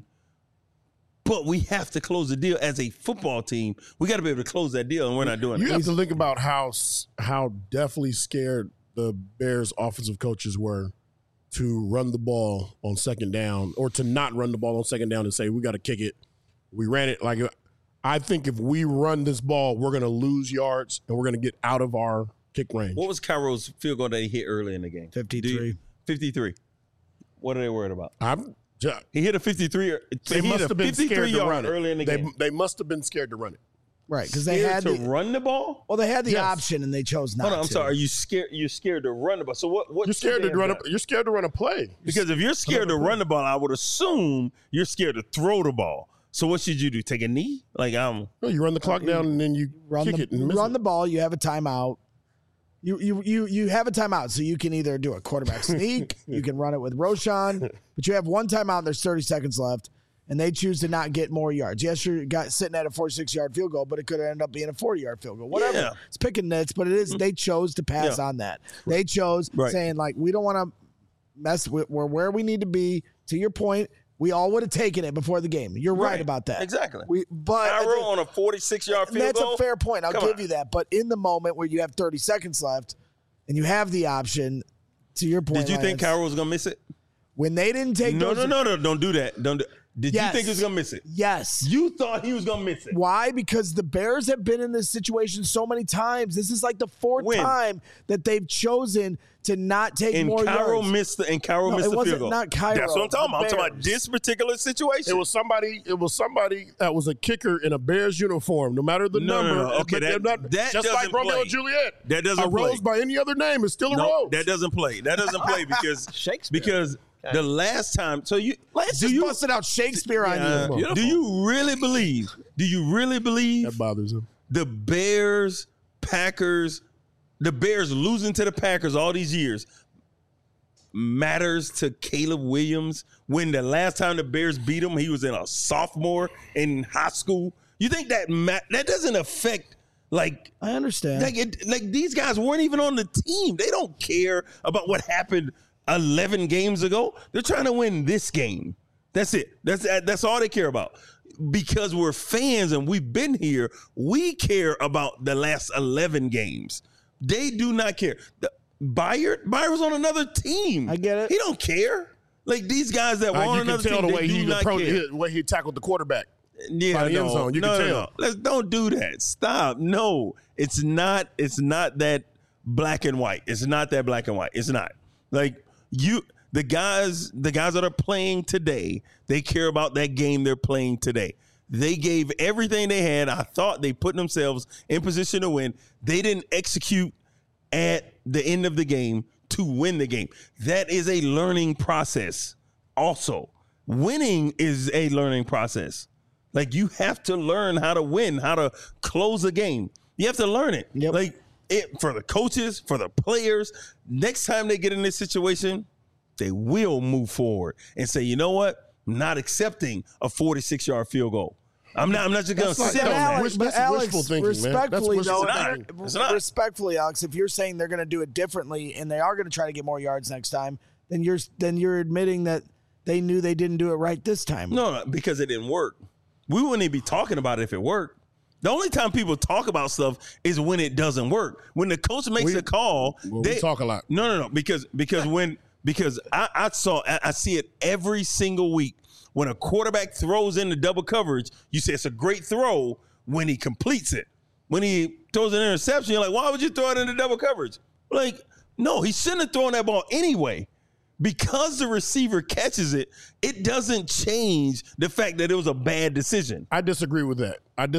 But we have to close the deal as a football team. We got to be able to close that deal, and we're not doing it. You have to think about how definitely scared the Bears offensive coaches were to run the ball on second down or to not run the ball on second down and say, we got to kick it. We ran it. Like, I think if we run this ball, we're going to lose yards and we're going to get out of our kick range. What was Cairo's field goal that he hit early in the game? 53. 53. What are they worried about? He hit a 53. They must have been scared to run it. Early in the game. They must have been scared to run it. Right, because they had to run the ball. Well, they had the option and they chose not. Hold on, I'm sorry. Are you scared? You're scared to run the ball. So what? You're scared to run. You're scared to run a play. Because if you're scared to run the ball, I would assume you're scared to throw the ball. So what should you do? Take a knee? Like No, you run the clock down and then you kick it and miss run the ball. You have a timeout. You have a timeout, so you can either do a quarterback sneak, you can run it with Roschon, but you have one timeout and there's 30 seconds left, and they choose to not get more yards. Yes, you're sitting at a 46-yard field goal, but it could end up being a 40-yard field goal. Whatever. Yeah. It's picking nits, but it is. They chose to pass on that. They chose saying, like, we don't want to mess with where we need to be. To your point, we all would have taken it before the game. You're right about that. Exactly. Cairo on a 46-yard field goal. That's a fair point. I'll give you that. But in the moment where you have 30 seconds left and you have the option, to your point, did you think Cairo was going to miss it? When they didn't take No, don't do that. Did you think he was going to miss it? Yes. You thought he was going to miss it. Why? Because the Bears have been in this situation so many times. This is like the fourth time that they've chosen to not take more yards. Missed the field goal. Not Cairo. That's what I'm talking about. I'm talking about this particular situation. It was somebody that was a kicker in a Bears uniform, no matter the number. No. Okay, that just like Romeo and Juliet. That doesn't play. A rose by any other name is still a rose. That doesn't play. That doesn't play because Shakespeare. Because the last time, let's just busted out Shakespeare on you. Do you really believe that bothers him? The Bears losing to the Packers all these years matters to Caleb Williams when the last time the Bears beat him, he was in a sophomore in high school? You think that doesn't affect? Like, I understand. Like these guys weren't even on the team. They don't care about what happened 11 games ago. They're trying to win this game. That's it. That's all they care about. Because we're fans and we've been here, we care about the last 11 games. They do not care. Byer's on another team. I get it. He don't care. Like these guys that were on another team, they do not care. The way he tackled the quarterback. Yeah, by the end zone. You can tell. Don't do that. Stop. No, it's not that black and white. It's not that black and white. It's not. Like the guys that are playing today, they care about that game they're playing today. They gave everything they had. I thought they put themselves in position to win. They didn't execute at the end of the game to win the game. That is a learning process. Also, winning is a learning process. Like, you have to learn how to win, how to close a game. You have to learn it. Yep. Like, for the coaches, for the players, next time they get in this situation, they will move forward and say, you know what? I'm not accepting a 46-yard field goal. I'm not just going to sit on that. But Alex, wishful thinking, respectfully, man. Respectfully, Alex, if you're saying they're going to do it differently and they are going to try to get more yards next time, then you're admitting that they knew they didn't do it right this time. No, because it didn't work. We wouldn't even be talking about it if it worked. The only time people talk about stuff is when it doesn't work. When the coach makes a call, we talk a lot. No, because I see it every single week. When a quarterback throws into double coverage, you say it's a great throw when he completes it. When he throws an interception, you're like, why would you throw it into double coverage? Like, no, he shouldn't have thrown that ball anyway. Because the receiver catches it, it doesn't change the fact that it was a bad decision. I disagree with that.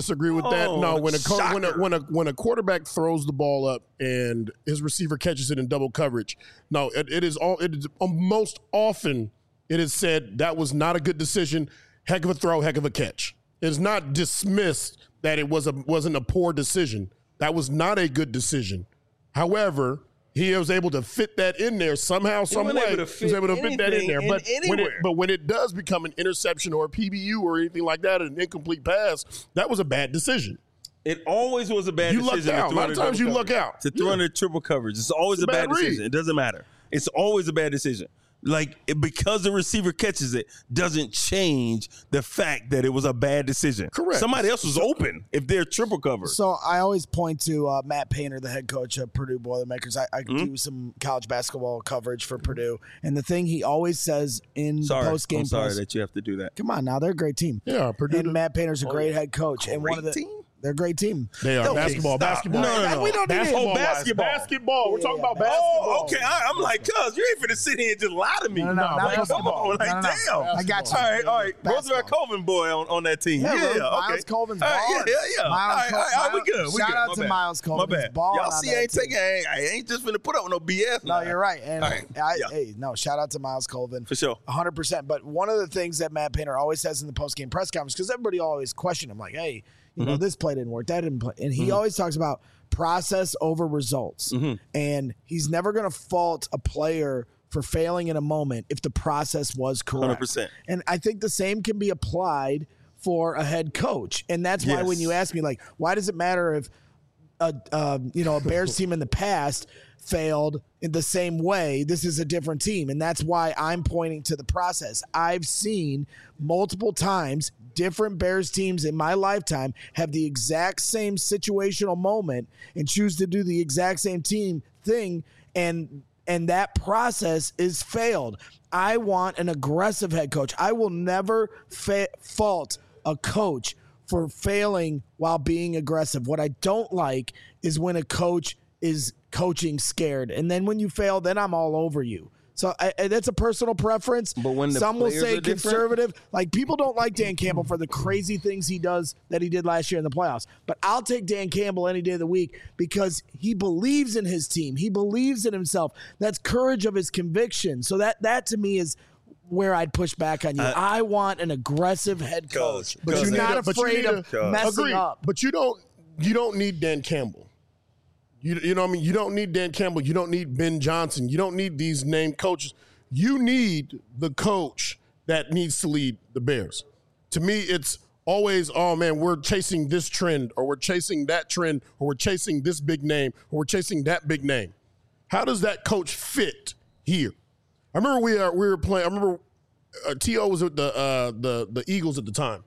No, when a quarterback throws the ball up and his receiver catches it in double coverage, no, it is most often it is said that was not a good decision. Heck of a throw, heck of a catch. It is not dismissed that it wasn't a poor decision. That was not a good decision. However, he was able to fit that in there somehow, some way. He was able to fit that in there. But when it does become an interception or a PBU or anything like that, an incomplete pass, that was a bad decision. It always was a bad decision. You lucked out. A lot of times you luck out. To throw under triple coverage. It's always a bad decision. It doesn't matter. It's always a bad decision. Like, because the receiver catches it doesn't change the fact that it was a bad decision. Correct. Somebody else was open if they're triple covered. So I always point to Matt Painter, the head coach of Purdue Boilermakers. I do some college basketball coverage for Purdue. And the thing he always says in the post-game I'm sorry that you have to do that. Come on now, they're a great team. Yeah, Purdue. And Matt Painter's a great head coach. And one of the team? They're a great team. They are. Okay, Basketball. No. We don't need Basketball. We're talking about basketball. Oh, okay. I'm like, cuz, you ain't finna sit here and just lie to me. No, Come on. Like, damn. I got you. All right. Roosevelt Colvin boy on that team. Yeah, okay. Miles Colvin's balling. Yeah. All right, we good. Shout out to Miles Colvin. My bad. Y'all see, I ain't just finna put up with no BS. No, you're right. And shout out to Miles Colvin. For sure. 100%. But one of the things that Matt Painter always says in the post-game press conference, because everybody always question him, like, hey, you know, this play didn't work, that didn't play. And he always talks about process over results. And he's never going to fault a player for failing in a moment if the process was correct. 100%. And I think the same can be applied for a head coach. And that's why when you ask me, like, why does it matter if a Bears team in the past failed in the same way? This is a different team. And that's why I'm pointing to the process. I've seen multiple times different Bears teams in my lifetime have the exact same situational moment and choose to do the exact same team thing, and that process is failed. I want an aggressive head coach. I will never fault a coach for failing while being aggressive. What I don't like is when a coach is coaching scared, and then when you fail, then I'm all over you. So that's a personal preference. But when some will say conservative, like people don't like Dan Campbell for the crazy things he did last year in the playoffs. But I'll take Dan Campbell any day of the week because he believes in his team. He believes in himself. That's courage of his conviction. So that to me is where I'd push back on you. I want an aggressive head coach, but you're not afraid of messing up. But you don't need Dan Campbell. You know what I mean? You don't need Dan Campbell. You don't need Ben Johnson. You don't need these named coaches. You need the coach that needs to lead the Bears. To me, it's always, oh, man, we're chasing this trend or we're chasing that trend or we're chasing this big name or we're chasing that big name. How does that coach fit here? I remember we were playing. I remember T.O. was with the Eagles at the time.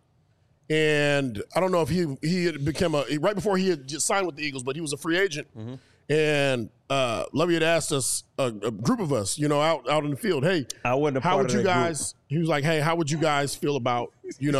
And I don't know if he had become right before he had just signed with the Eagles, but he was a free agent. And Lovey had asked us, a group of us, out in the field, hey, how would you guys? Group. He was like, hey, how would you guys feel about,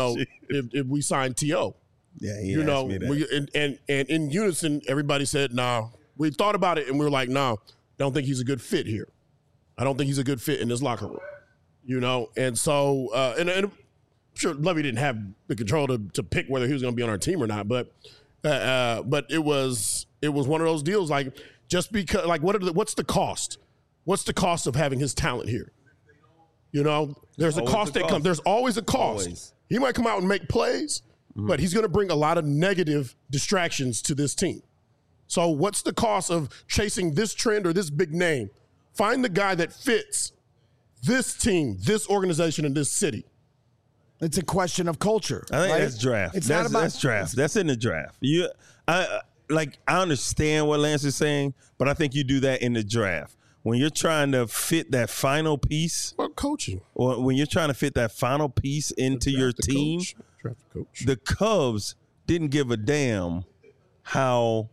if we signed T.O.? Yeah, he asked me that. And in unison, everybody said, no. We thought about it, and we were like, no, don't think he's a good fit here. I don't think he's a good fit in this locker room. And so, and sure Lovie didn't have the control to pick whether he was going to be on our team or not, but it was one of those deals. Like, just because, like, what's the cost? What's the cost of having his talent here? You know, there's a cost that comes. There's always a cost. Always. He might come out and make plays, but he's going to bring a lot of negative distractions to this team. So what's the cost of chasing this trend or this big name? Find the guy that fits this team, this organization, and this city. It's a question of culture. I think right? that's draft. That's draft. That's in the draft. I understand what Lance is saying, but I think you do that in the draft. When you're trying to fit that final piece. About coaching. Or when you're trying to fit that final piece into your team, the Cubs didn't give a damn how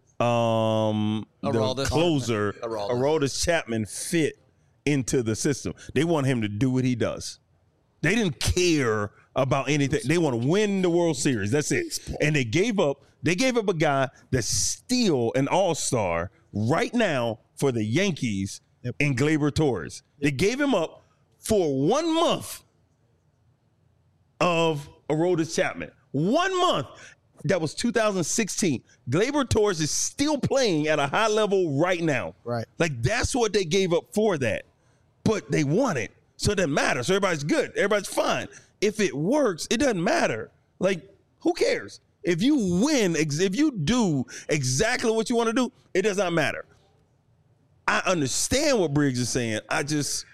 the closer, Aroldis Chapman, fit into the system. They want him to do what he does. They didn't care about anything. They want to win the World Series. That's it. And they gave up a guy that's still an all-star right now for the Yankees in Gleyber Torres. They gave him up for 1 month of Aroldis Chapman. 1 month. That was 2016. Gleyber Torres is still playing at a high level right now. Right. Like, that's what they gave up for that. But they won it. So it doesn't matter. So everybody's good. Everybody's fine. If it works, it doesn't matter. Like, who cares? If you win, if you do exactly what you want to do, it does not matter. I understand what Briggs is saying. At the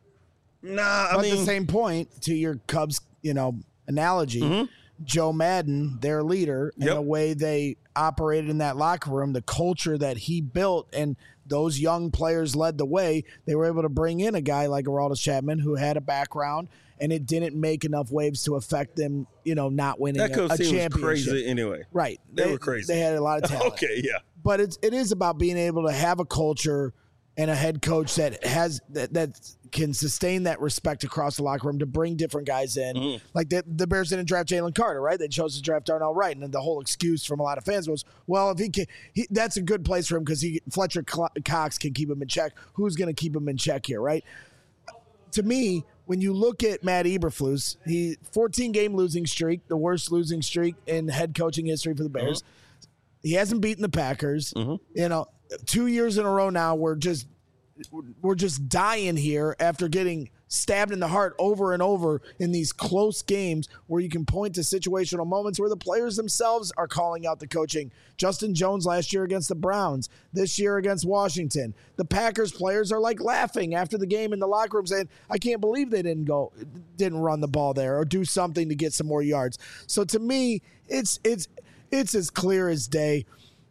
same point, to your Cubs, analogy, Joe Madden, their leader, and the way they operated in that locker room, the culture that he built, and those young players led the way. They were able to bring in a guy like Aroldis Chapman who had a background, and it didn't make enough waves to affect them, not winning a championship. Was crazy anyway. Right. They were crazy. They had a lot of talent. Okay, yeah. But it is about being able to have a culture and a head coach that has that can sustain that respect across the locker room to bring different guys in. Like the Bears didn't draft Jalen Carter, right? They chose to draft Darnell Wright, and then the whole excuse from a lot of fans was, well, if he can, that's a good place for him because Fletcher Cox can keep him in check. Who's going to keep him in check here, right? To me, when you look at Matt Eberflus, 14-game losing streak, the worst losing streak in head coaching history for the Bears. He hasn't beaten the Packers. 2 years in a row now, we're just dying here after getting stabbed in the heart over and over in these close games where you can point to situational moments where the players themselves are calling out the coaching. Justin Jones last year against the Browns, this year against Washington. The Packers players are like laughing after the game in the locker room saying, I can't believe they didn't run the ball there or do something to get some more yards. So to me, it's as clear as day.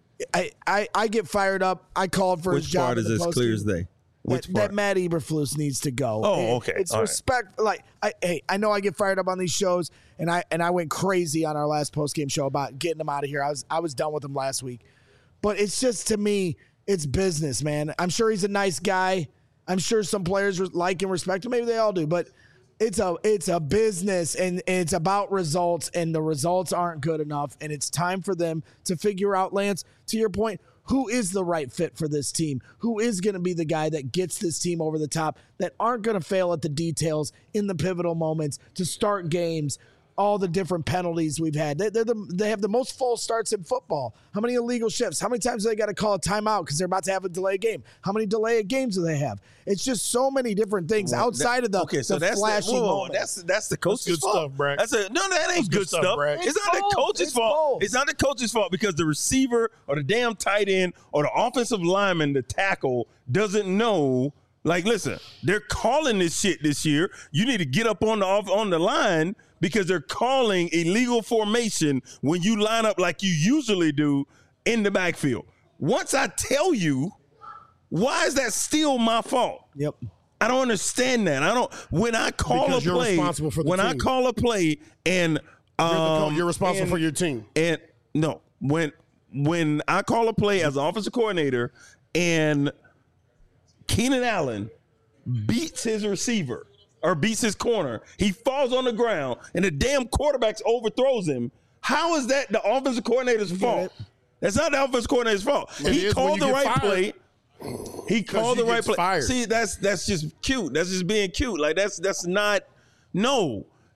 I get fired up. I called for his job. Which part is as clear as day? That Matt Eberflus needs to go. Oh, okay. It's respect. Right. Like, I know I get fired up on these shows, and I went crazy on our last postgame show about getting him out of here. I was done with him last week, but it's just, to me, it's business, man. I'm sure he's a nice guy. I'm sure some players like and respect him. Maybe they all do, but it's a business, and it's about results, and the results aren't good enough, and it's time for them to figure out, Lance, to your point, who is the right fit for this team? Who is going to be the guy that gets this team over the top, that aren't going to fail at the details in the pivotal moments to start games, all the different penalties we've had. They have the most false starts in football. How many illegal shifts? How many times do they got to call a timeout because they're about to have a delay game? How many delay games do they have? It's just so many different things outside of the flashy moment. That's the coach's fault. Stuff, Brad. That ain't good stuff. It's not the coach's fault. It's not the coach's fault because the receiver or the damn tight end or the offensive lineman, the tackle, doesn't know. Like, listen, they're calling this shit this year. You need to get up on the line because they're calling illegal formation when you line up like you usually do in the backfield. Once I tell you, why is that still my fault? Yep. I don't understand that. When I call a play, responsible for the team. I call a play and you're responsible for your team. And no, when I call a play as an offensive coordinator and Keenan Allen beats his receiver or beats his corner, he falls on the ground, and the damn quarterback overthrows him. How is that the offensive coordinator's fault? That's not the offensive coordinator's fault. He called the right play. He called the right play. Fired. See, that's just cute. That's just being cute. Like that's not. No,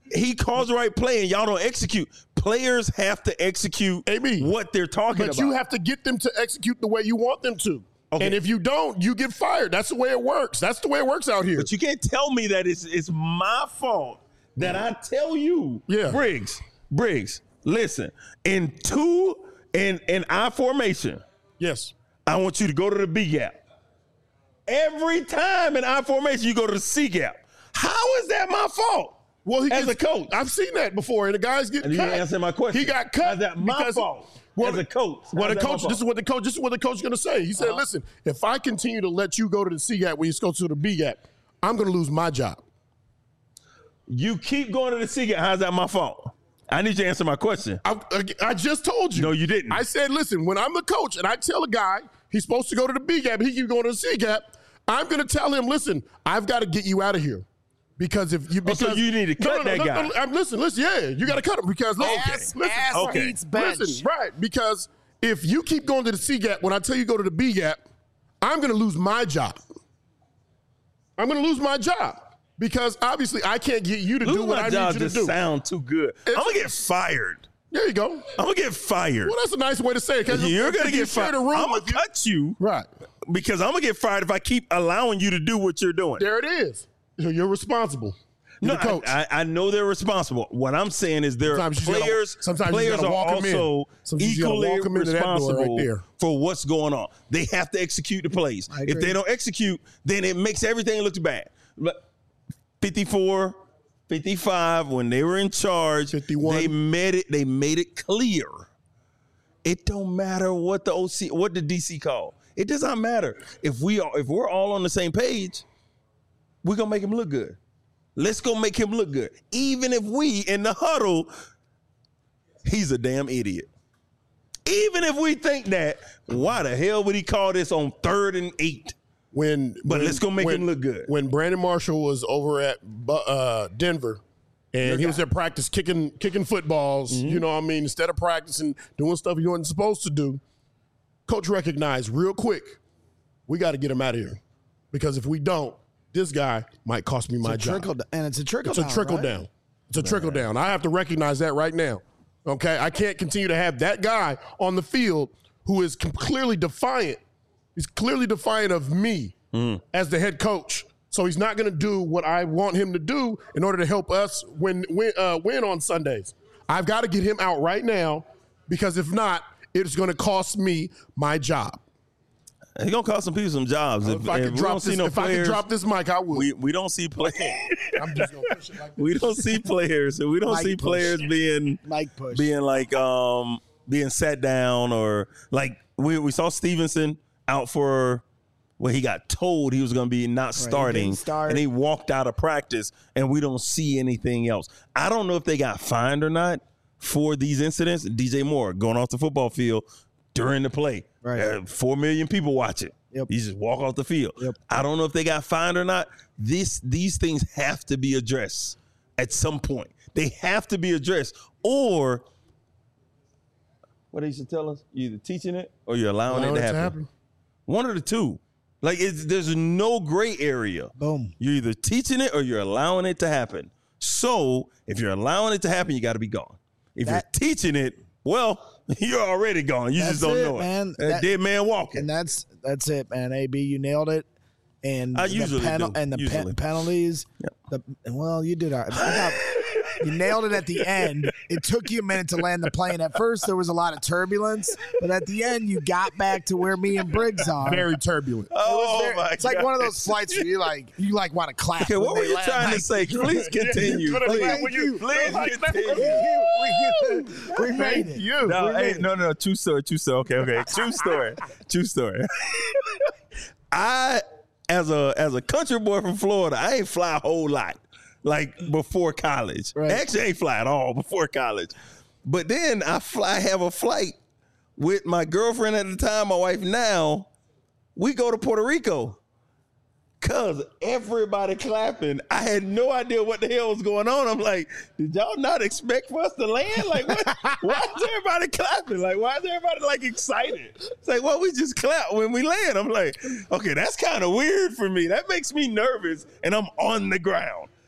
he calls the right play and y'all don't execute. Players have to execute what they're talking about. But you have to get them to execute the way you want them to. Okay. And if you don't, you get fired. That's the way it works. That's the way it works out here. But you can't tell me that it's my fault that I tell you, Briggs, listen, in I formation, yes, I want you to go to the B gap. Every time in I formation, you go to the C gap. How is that my fault? Well, as a coach, I've seen that before, and the guys get cut. You didn't answer my question. He got cut. Is that my fault? As a coach, this is what the coach is going to say. He said, "Listen, if I continue to let you go to the C gap when you go to the B gap, I'm going to lose my job." You keep going to the C gap. How's that my fault? I need you to answer my question. I just told you. No, you didn't. I said, "Listen, when I'm the coach and I tell a guy he's supposed to go to the B gap, he keeps going to the C gap, I'm going to tell him, listen, I've got to get you out of here." Because if you you need to cut that guy. Listen, yeah, you got to cut him because listen, right? Because if you keep going to the C gap when I tell you go to the B gap, I'm going to lose my job. I'm going to lose my job because obviously I can't get you to do what I need you to do. Sound too good. I'm gonna get fired. There you go. I'm gonna get fired. Well, that's a nice way to say it. You're gonna get fired. I'm gonna cut you, right? Because I'm gonna get fired if I keep allowing you to do what you're doing. There it is. You're responsible. You're the coach. I know they're responsible. What I'm saying is there are players. Players are also equally responsible for what's going on. They have to execute the plays. If they don't execute, then it makes everything look bad. 54, 55, when they were in charge, 51. They made it clear. It don't matter what the DC call. It does not matter. If we're all on the same page, we're gonna make him look good. Let's go make him look good. Even if we in the huddle, he's a damn idiot. Even if we think that, why the hell would he call this on 3rd and 8? Let's go make him look good. When Brandon Marshall was over at Denver, and he was at practice kicking footballs, you know what I mean, instead of practicing, doing stuff he wasn't supposed to do, coach recognized real quick, we got to get him out of here. Because if we don't, this guy might cost me my job. It's a trickle down. It's a trickle down. I have to recognize that right now. Okay? I can't continue to have that guy on the field who is clearly defiant. He's clearly defiant of me as the head coach. So he's not going to do what I want him to do in order to help us win on Sundays. I've got to get him out right now because if not, it's going to cost me my job. He's going to cost some people some jobs. If I could drop this mic, I would. We don't see players. I'm just going to push it like this. We don't see players. We don't see players being sat down or like we saw Stevenson out for he got told he was going to be not starting and he walked out of practice and we don't see anything else. I don't know if they got fined or not for these incidents. DJ Moore going off the football field during the play. Right. 4 million people watch it. Yep. You just walk off the field. Yep. I don't know if they got fined or not. These things have to be addressed at some point. They have to be addressed. Or what they used to tell us, you're either teaching it or you're allowing it to happen. One of the two. Like there's no gray area. Boom. You're either teaching it or you're allowing it to happen. So if you're allowing it to happen, you got to be gone. If you're teaching it, well, you're already gone. You just don't know it. Dead man walking. And that's it, man. AB, you nailed it. And I usually do. And the penalties. Yep. You did all right. You nailed it at the end. It took you a minute to land the plane. At first, there was a lot of turbulence, but at the end, you got back to where me and Briggs are. Very turbulent. It's like one of those flights where you want to clap. Okay, what were you trying to say? Please continue. Please continue. We made it. No. True story. Okay. True story. I, as a country boy from Florida, I ain't fly a whole lot. Like before college. Right. Actually, I ain't fly at all before college. But then I have a flight with my girlfriend at the time, my wife now. We go to Puerto Rico. Cause everybody clapping. I had no idea what the hell was going on. I'm like, did y'all not expect for us to land? Like, what? Why is everybody clapping? Like, why is everybody like excited? It's like, well, we just clap when we land. I'm like, okay, that's kind of weird for me. That makes me nervous, and I'm on the ground.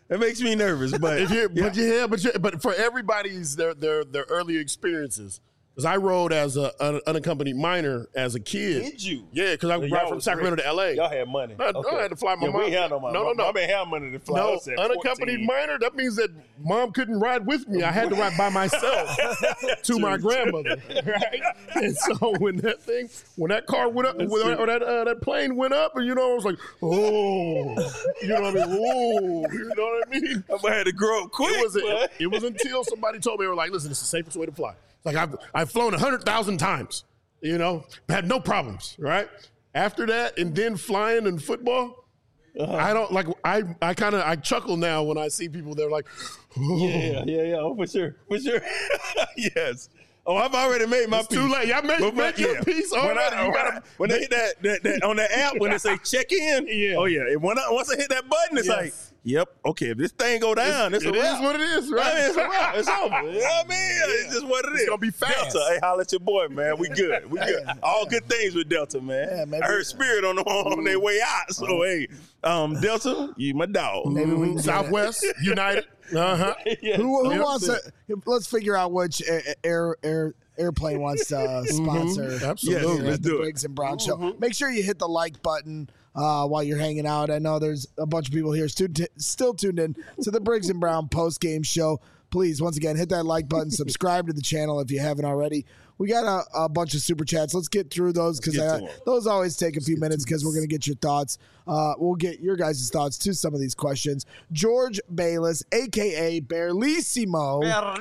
It makes me nervous, but but for everybody's their early experiences. Because I rode as an unaccompanied minor as a kid. Did you? Yeah, because I ride from Sacramento to L.A. Y'all had money. I had to fly my mom. We had no money. No. I didn't have money to fly. No, unaccompanied minor, that means that mom couldn't ride with me. I had to ride by myself to my grandmother, right? And so when that car went up, or that plane went up, and I was like, oh, you know what I mean? Oh, you know what I mean? I had to grow up quick. It was until somebody told me, they were like, listen, it's the safest way to fly. Like I've flown 100,000 times, had no problems, right? After that, and then flying and football, I don't like. I chuckle now when I see people. They're like, oh. yeah, oh, for sure, yes. Oh, I've already made my piece. Too late. Y'all made your piece already. When they hit that on the app, when they say check in, oh yeah. And once I hit that button, it's like, yep, okay. If this thing go down, it's a wrap. It is what it is, right? I mean, it's a wrap. It's over. You know what I mean? It's just what it is. It's gonna be fast. Delta, hey, holla at your boy, man. We good. We good. All good things with Delta, man. I heard Spirit on their way out. So hey, Delta, you my dog. Maybe we can Southwest, United. Who wants to? Let's figure out which airplane wants to sponsor. Absolutely, the Briggs and Brown show. Make sure you hit the like button while you're hanging out. I know there's a bunch of people here still tuned in to the Briggs and Brown post game show. Please, once again, hit that like button. Subscribe to the channel if you haven't already. We got a bunch of super chats. Let's get through those because those always take a few minutes because we're going to get your thoughts. We'll get your guys' thoughts to some of these questions. George Bayless, a.k.a. Bearlissimo.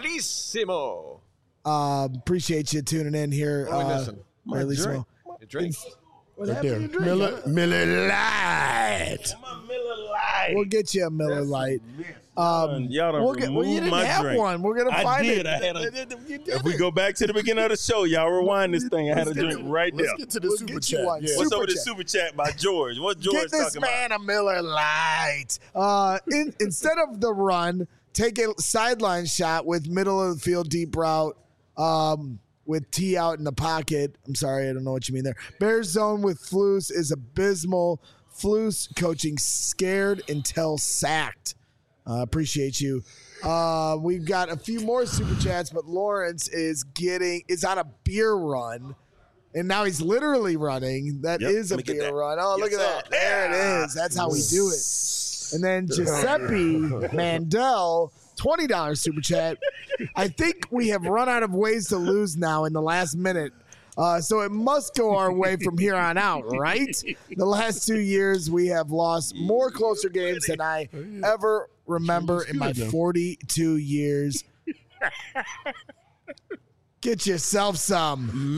Appreciate you tuning in here. Bearlissimo. Your drink. What happened to your drink? Miller Lite. We'll get you a Miller Lite. Y'all don't remove you didn't my have drink. one. We're gonna find it. If we go back to the beginning of the show, y'all rewind this thing. I had a drink right there. Let's get to the super chat. What's over the super chat by George? What George Get this talking man about? a Miller Lite. Instead of the run, take a sideline shot with middle of the field deep route. With T out in the pocket. I'm sorry, I don't know what you mean there. Bears zone with Flus is abysmal. Flus coaching scared until sacked. Appreciate you. We've got a few more super chats, but Lawrence is on a beer run. And now he's literally running. That is a beer run. Oh, look at that. There it is. That's how we do it. And then Giuseppe Mandel, $20 super chat. I think we have run out of ways to lose now in the last minute. So it must go our way from here on out, right? The last 2 years, we have lost more closer games than I ever remember in my 42 years. Get yourself some.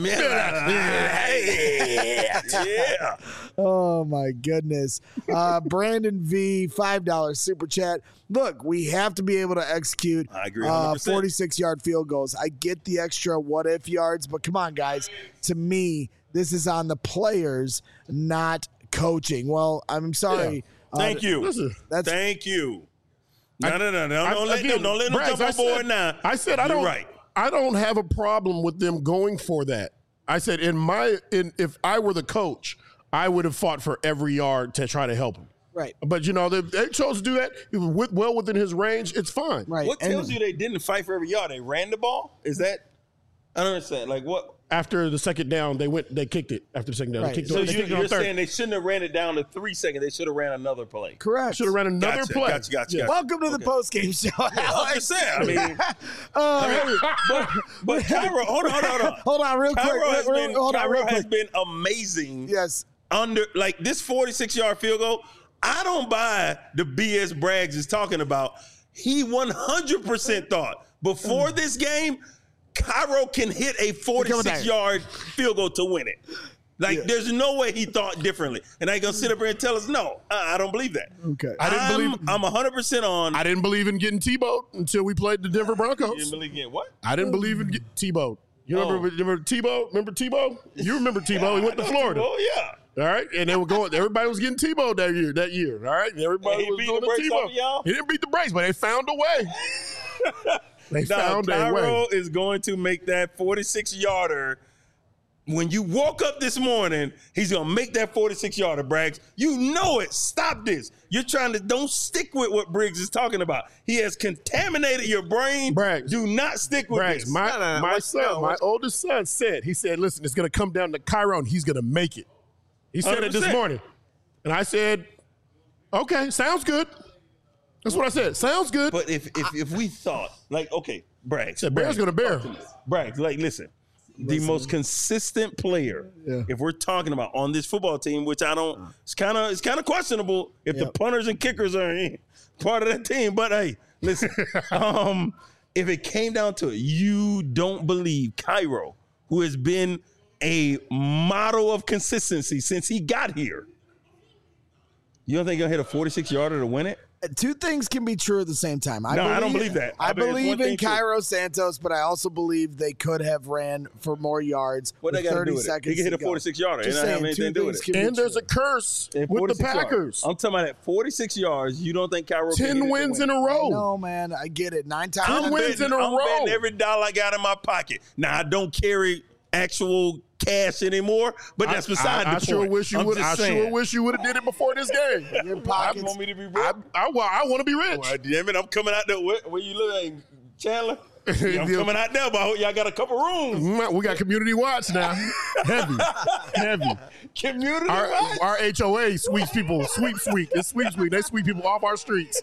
Yeah. Oh, my goodness. Brandon V, $5 super chat. Look, we have to be able to execute 46-yard field goals. I get the extra what-if yards, but come on, guys. To me, this is on the players, not coaching. Well, I'm sorry. Yeah. Thank you. Thank you. No. Don't let them jump on board now. I said I don't. Right. I don't have a problem with them going for that. I said if I were the coach, I would have fought for every yard to try to help him. Right. But they chose to do that well within his range. It's fine. Right. What tells you they didn't fight for every yard? They ran the ball? Is that? I don't understand. Like what? After the second down, they kicked it. After the second down, right. So you're saying they shouldn't have ran it down to 3 seconds. They should have ran another play. Correct. Should have ran another play. Gotcha. Welcome to the post-game show. I'm just saying. I mean, but Cairo, hold on. Hold on, real quick. Cairo has been amazing. Yes. Under like this 46-yard field goal, I don't buy the BS Braggs is talking about. He 100% thought before this game, Cairo can hit a 46-yard field goal to win it. There's no way he thought differently. And I gonna sit up here and tell us, no, I don't believe that. Okay. I'm 100% on. I didn't believe in getting Tebowed until we played the Denver Broncos. You didn't believe in what? I didn't believe in getting Tebowed. You remember Tebow? Remember Tebow? You remember Tebow? He went to Florida. Oh yeah. All right, and they were going. Everybody was getting Tebowed that year. All right, everybody was doing the Tebow. He didn't beat the brakes, but they found a way. Cairo is going to make that 46-yarder when you woke up this morning, he's going to make that 46-yarder, Braggs. You know it. Stop this. You're trying to, don't stick with what Briggs is talking about. He has contaminated your brain. Braggs. Do not stick with Braggs, this. My oldest son said, listen, it's going to come down to Cairo and he's going to make it. He said 100%. It this morning. And I said, okay, sounds good. That's what I said. Sounds good. But if we thought, like, okay, Braggs. Bear's going to bear. Braggs, like, listen. The most consistent player, if we're talking about on this football team, which I don't, it's kind of questionable if the punters and kickers are part of that team. But hey, listen, if it came down to it, you don't believe Cairo, who has been a model of consistency since he got here. You don't think he'll hit a 46-yarder to win it? Two things can be true at the same time. I don't believe that. I believe in Cairo Santos, but I also believe they could have ran for more yards. What they got to do with it? He can hit a 46-yarder. Just saying, anything to do with it. And there's a curse with the Packers. I'm talking about at 46 yards. You don't think Cairo 10 wins in a row? No, man. I get it. 9 times. 10 wins in a row. I'm betting every dollar I got in my pocket. Now, I don't carry actual cash anymore, but that's beside the point. I sure wish you would have did it before this game. Your pockets. You want me to be rich? I want to be rich. Well, damn it, I'm coming out there. Where you live, Chandler? Yeah, I'm coming out there, but y'all got a couple rooms. We got community watch now. Heavy. Community watch? Our HOA sweeps people. Sweep. It's sweep. They sweep people off our streets.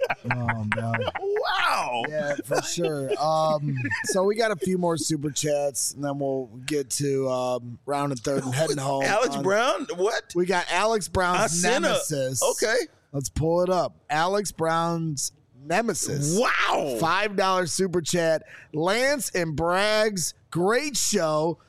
Oh, man. Wow. Yeah, for sure. So we got a few more super chats, and then we'll get to round and third and heading home. Alex Brown? What? We got Alex Brown's nemesis. Okay. Let's pull it up. Alex Brown's nemesis. Wow. $5 super chat. Lance and Braggs, great show.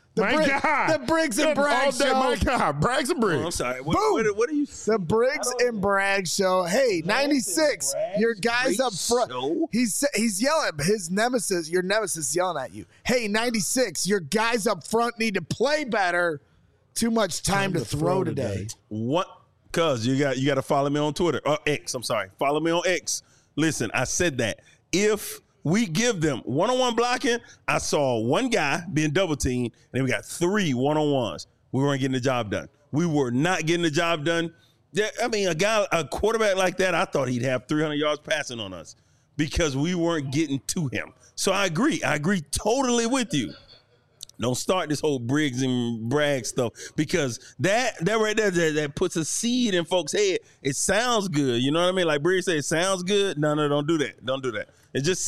The Briggs and Braggs show. My God, Braggs and Briggs. Oh, I'm sorry. What are you saying? The Briggs and Braggs show. Hey, 96. Your guys up front. He's yelling. His nemesis, your nemesis, yelling at you. Hey, 96. Your guys up front need to play better. Too much time to throw today. What? Cuz you got to follow me on Twitter. X. I'm sorry. Follow me on X. Listen, I said that if we give them one-on-one blocking, I saw one guy being double teamed, and then we got 3 one-on-ones. We weren't getting the job done. We were not getting the job done. I mean, a quarterback like that, I thought he'd have 300 yards passing on us because we weren't getting to him. So I agree. I agree totally with you. Don't start this whole Briggs and Braggs stuff because that right there that puts a seed in folks' head. It sounds good, you know what I mean? Like Briggs said, it sounds good. No, don't do that. Don't do that. It just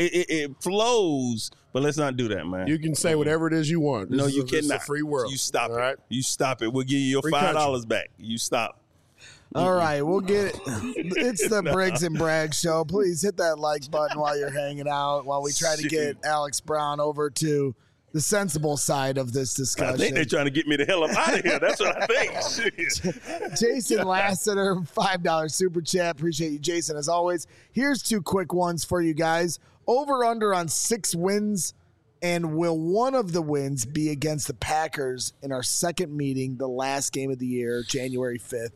it flows, but let's not do that, man. You can say whatever it is you want. No, you cannot. It's a free world. You stop it. Right? You stop it. We'll give you your $5 back. You stop. All right, we'll get it. It's the Briggs and Braggs show. Please hit that like button while you're hanging out while we try to get Alex Brown over to the sensible side of this discussion. I think they're trying to get me the hell up out of here. That's what I think. Jason Lassiter, $5 super chat. Appreciate you, Jason, as always. Here's 2 quick ones for you guys. Over under on 6 wins, and will one of the wins be against the Packers in our second meeting, the last game of the year, January 5th,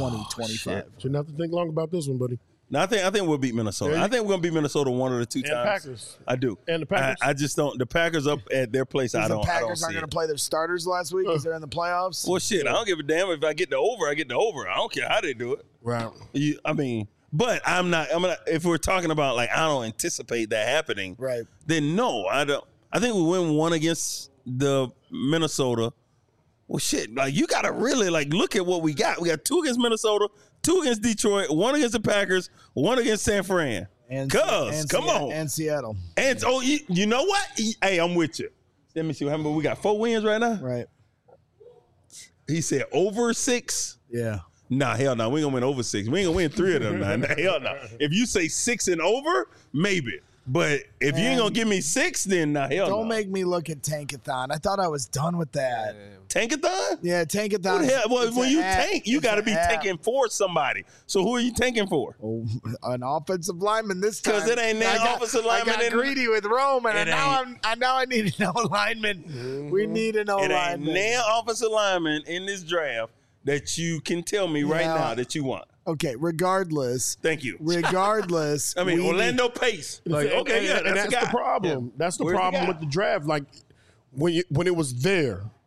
2025? Shouldn't have to think long about this one, buddy. No, I think we'll beat Minnesota. I think we're gonna beat Minnesota 1 or the 2 times. And Packers. I do. And the Packers. I just don't. The Packers up at their place. I don't. The Packers aren't going to play their starters last week because they're in the playoffs. Well, shit. I don't give a damn if I get the over. I get the over. I don't care how they do it. Right. But I'm not. If we're talking about like I don't anticipate that happening. Right. Then no, I don't. I think we win 1 against the Minnesota. Well, shit. Like you got to really like look at what we got. We got 2 against Minnesota, 2 against Detroit, 1 against the Packers, 1 against San Fran. Come on. And Seattle. And you know what? Hey, I'm with you. Let me see what happened. We got 4 wins right now. Right. He said over 6. Yeah. Nah, hell no. We ain't gonna win over 6. We ain't gonna win 3 of them. Nah, hell no. If you say 6 and over, maybe. But if you ain't gonna give me 6, then hell no. Don't make me look at Tankathon. I thought I was done with that. Tankathon? Yeah, Tankathon. What the hell? Well, when you tank, you got to be tanking for somebody. So who are you tanking for? Oh, an offensive lineman this time. Because it ain't that offensive lineman. I got greedy with Rome, and now I need an O-lineman. Mm-hmm. We need an O-lineman. It ain't now offensive lineman in this draft that you can tell me right now that you want. Okay, regardless. Thank you. Regardless. I mean, Orlando Pace. Like, okay, yeah, that's the problem. Yeah. That's the problem with the draft. Like, when it was there,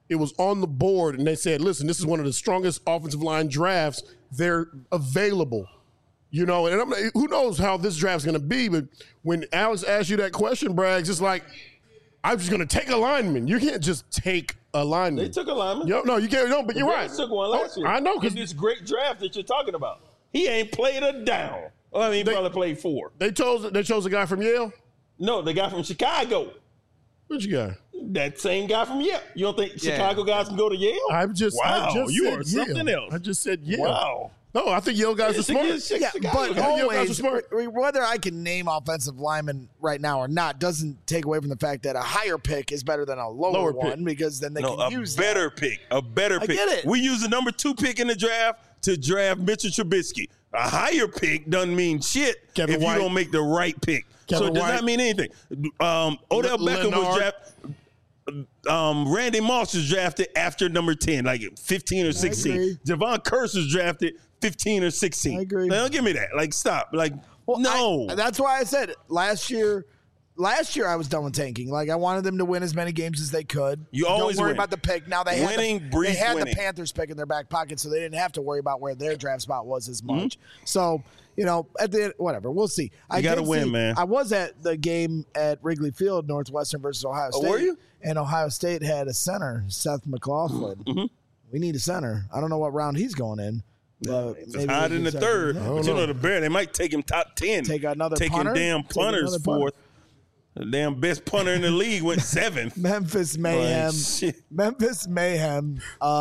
it was on the board, and they said, listen, this is one of the strongest offensive line drafts. They're available. You know, and who knows how this draft's going to be, but when Alex asked you that question, Braggs, it's like, I'm just going to take a lineman. You can't just take a lineman. They took a lineman. No, you can't. No, but you're right. They took one last year. I know. In this great draft that you're talking about. He ain't played a down. Well, I mean, he probably played 4. They chose a guy from Yale? No, the guy from Chicago. Which guy? That same guy from Yale. You don't think Chicago guys can go to Yale? Wow, you are something else. I just said Yale. Wow. No, I think Yale guys are smart. But always, whether I can name offensive linemen right now or not doesn't take away from the fact that a higher pick is better than a lower one pick. Because then they can use a better pick. A better pick. I get it. We use the number 2 pick in the draft to draft Mitchell Trubisky. A higher pick doesn't mean shit if you don't make the right pick. So it does not mean anything. Odell Beckham was drafted. Randy Moss was drafted after number 10, like 15 or 16. Javon Curse was drafted 15 or 16. I agree. Now, don't give me that. Like, stop. Like, no. That's why I said last year I was done with tanking. Like, I wanted them to win as many games as they could. You always don't worry win. about the pick. Now they had winning. the Panthers pick in their back pocket, so they didn't have to worry about where their draft spot was as much. So, you know, at the end, whatever, we'll see. You got to win, man. I was at the game at Wrigley Field, Northwestern versus Ohio State. Oh, were you? And Ohio State had a center, Seth McLaughlin. Mm-hmm. We need a center. I don't know what round he's going in. It's hot in the third. But you know the Bears, they might take him top 10. Take another Taking punter. damn punters fourth. The damn best punter in the league went 7th. Memphis Mayhem. Memphis Mayhem.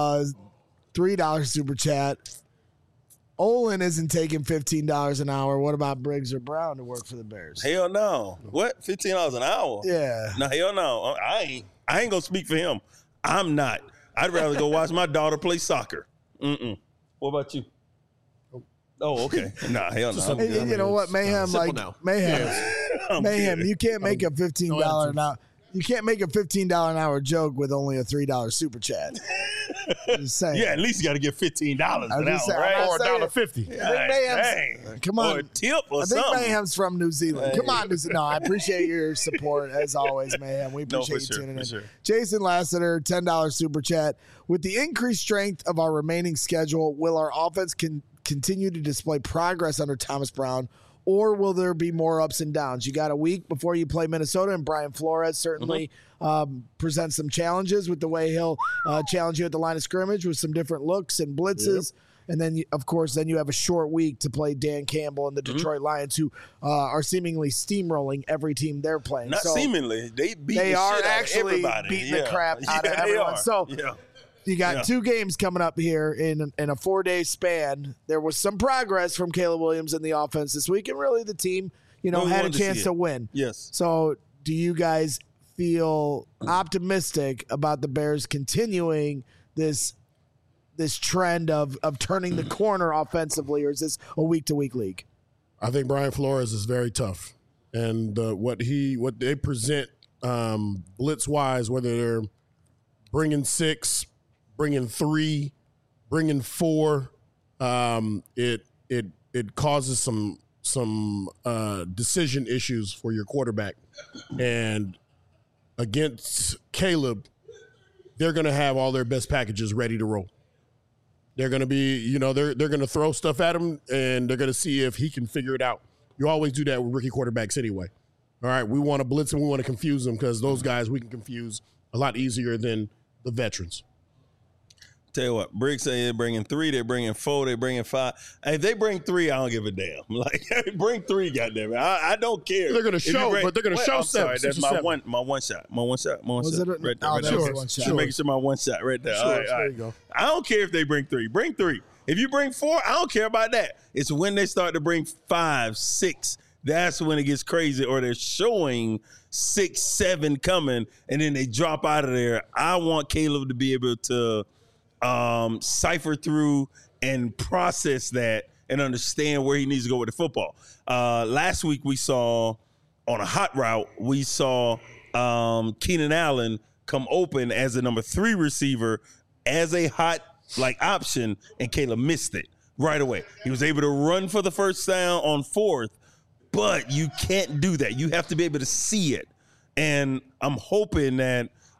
$3 super chat. Olin isn't taking $15 an hour. What about Briggs or Brown to work for the Bears? Hell no. What? $15 an hour? Yeah. No, hell no. I ain't gonna speak for him. I'm not. I'd rather go watch my daughter play soccer. What about you? Oh, okay. Nah, hell no. Hey, you know what, Mayhem? Mayhem. You can't make a $15 an hour. You can't make a $15 an hour joke with only a $3 super chat. Just saying. Yeah, at least you got to get $15 an hour, right? Or $1.50. Come on. Or a tip or something. I think Mayhem's from New Zealand. Come on, New Zealand. No, I appreciate your support as always, Mayhem. We appreciate you tuning in. Sure. Jason Lassiter, $10 super chat. With the increased strength of our remaining schedule, will our offense continue to display progress under Thomas Brown, or will there be more ups and downs? You got a week before you play Minnesota, and Brian Flores certainly presents some challenges with the way he'll challenge you at the line of scrimmage with some different looks and blitzes. Yep. And then, of course, you have a short week to play Dan Campbell and the Detroit Lions, who are seemingly steamrolling every team they're playing. Not seemingly. They are shit actually out of beating the crap out of everyone. So you got 2 games coming up here in a 4-day span. There was some progress from Caleb Williams in the offense this week, and really the team, had a chance to win. Yes. So do you guys feel optimistic about the Bears continuing this trend of turning the corner offensively, or is this a week-to-week league? I think Brian Flores is very tough, and what they present blitz-wise, whether they're bringing 6, bringing 3, bringing 4, it causes some decision issues for your quarterback. And against Caleb, they're going to have all their best packages ready to roll. They're going to be, they're going to throw stuff at him, and they're going to see if he can figure it out. You always do that with rookie quarterbacks anyway. All right, we want to blitz and we want to confuse them because those guys we can confuse a lot easier than the veterans. Tell you what, Briggs say they're bringing 3, they're bringing 4, they're bringing 5. Hey, if they bring 3, I don't give a damn. Like, bring 3, goddammit. I don't care. They're going to show, but they're going to show 7. Sorry, that's my one shot. My one shot. Was it right there. Right there. One shot. Making sure my one shot right there. Sure, all right. There you go. I don't care if they bring 3. Bring 3. If you bring 4, I don't care about that. It's when they start to bring 5, 6. That's when it gets crazy, or they're showing 6, 7 coming, and then they drop out of there. I want Caleb to be able to cipher through and process that and understand where he needs to go with the football. Last week we saw on a hot route, we saw Keenan Allen come open as a number 3 receiver as a hot option, and Caleb missed it right away. He was able to run for the first down on 4th, but you can't do that. You have to be able to see it. And I'm hoping that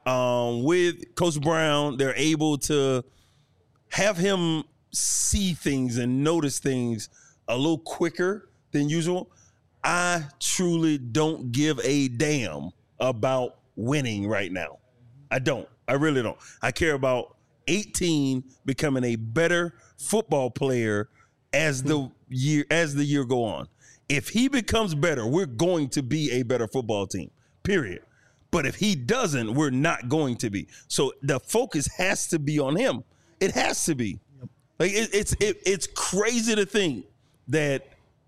with Coach Brown, they're able to have him see things and notice things a little quicker than usual. I truly don't give a damn about winning right now. I don't. I really don't. I care about 18 becoming a better football player as the year go on. If he becomes better, we're going to be a better football team, period. But if he doesn't, we're not going to be. So the focus has to be on him. It has to be. Like it's crazy to think that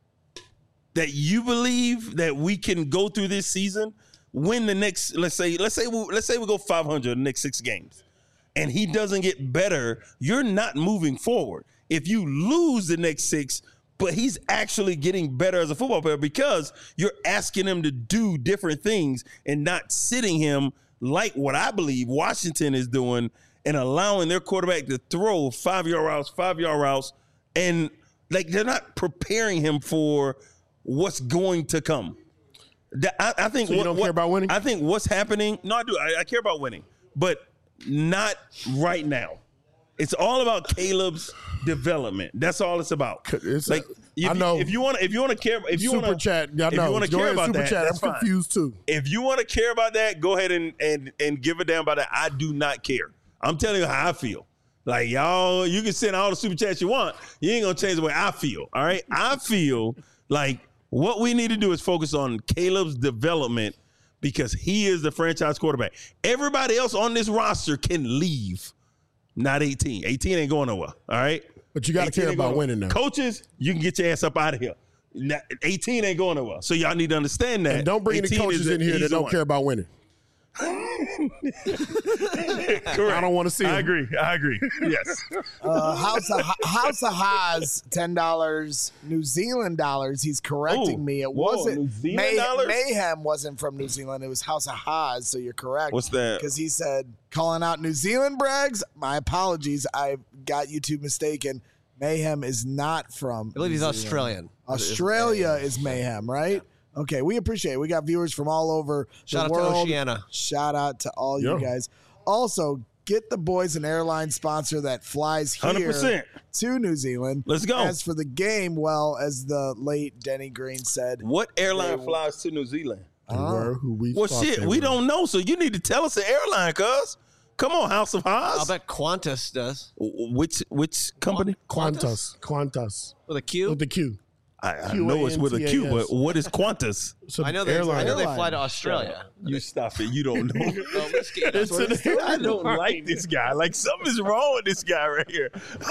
you believe that we can go through this season, win the next, let's say we go 500 the next 6 games, and he doesn't get better, you're not moving forward. If you lose the next 6, but he's actually getting better as a football player because you're asking him to do different things and not sitting him like what I believe Washington is doing and allowing their quarterback to throw 5-yard routes, and like they're not preparing him for what's going to come. I think so you don't care about winning? I think what's happening. No, I do. I care about winning, but not right now. It's all about Caleb's development. That's all it's about. I know. If you want to care, if you want to care about that, that's I'm confused too. If you want to care about that, go ahead and give a damn about that. I do not care. I'm telling you how I feel. Like, y'all, you can send all the super chats you want. You ain't gonna change the way I feel. All right. I feel like what we need to do is focus on Caleb's development because he is the franchise quarterback. Everybody else on this roster can leave. Not 18. 18 ain't going nowhere. All right. But you got to care about winning now. Coaches, you can get your ass up out of here. 18 ain't going nowhere. So y'all need to understand that. And don't bring any coaches in here that don't care about winning. Correct. I don't want to see him. I agree. Yes. House of Haas, $10, New Zealand dollars. He's correcting me. It wasn't New Zealand dollars? Mayhem wasn't from New Zealand. It was House of Haas. So you're correct. What's that? Because he said calling out New Zealand brags. My apologies. I got you two mistaken. Mayhem is not from. I believe he's Australian. Australia is Mayhem, right? Okay, we appreciate it. We got viewers from all over the world. Shout out to Oceania. Shout out to all you guys. Also, get the boys an airline sponsor that flies here 100%. To New Zealand. Let's go. As for the game, well, as the late Denny Green said. What airline flies to New Zealand? Well, shit, we don't know, so you need to tell us the airline, cuz. Come on, House of Haas. I'll bet Qantas does. Which company? Qantas. With a Q? With the Q. I know it's with a Q, but what is Qantas? I know they fly to Australia. You stop it. You don't know. I don't like this guy. Like, something's wrong with this guy right here.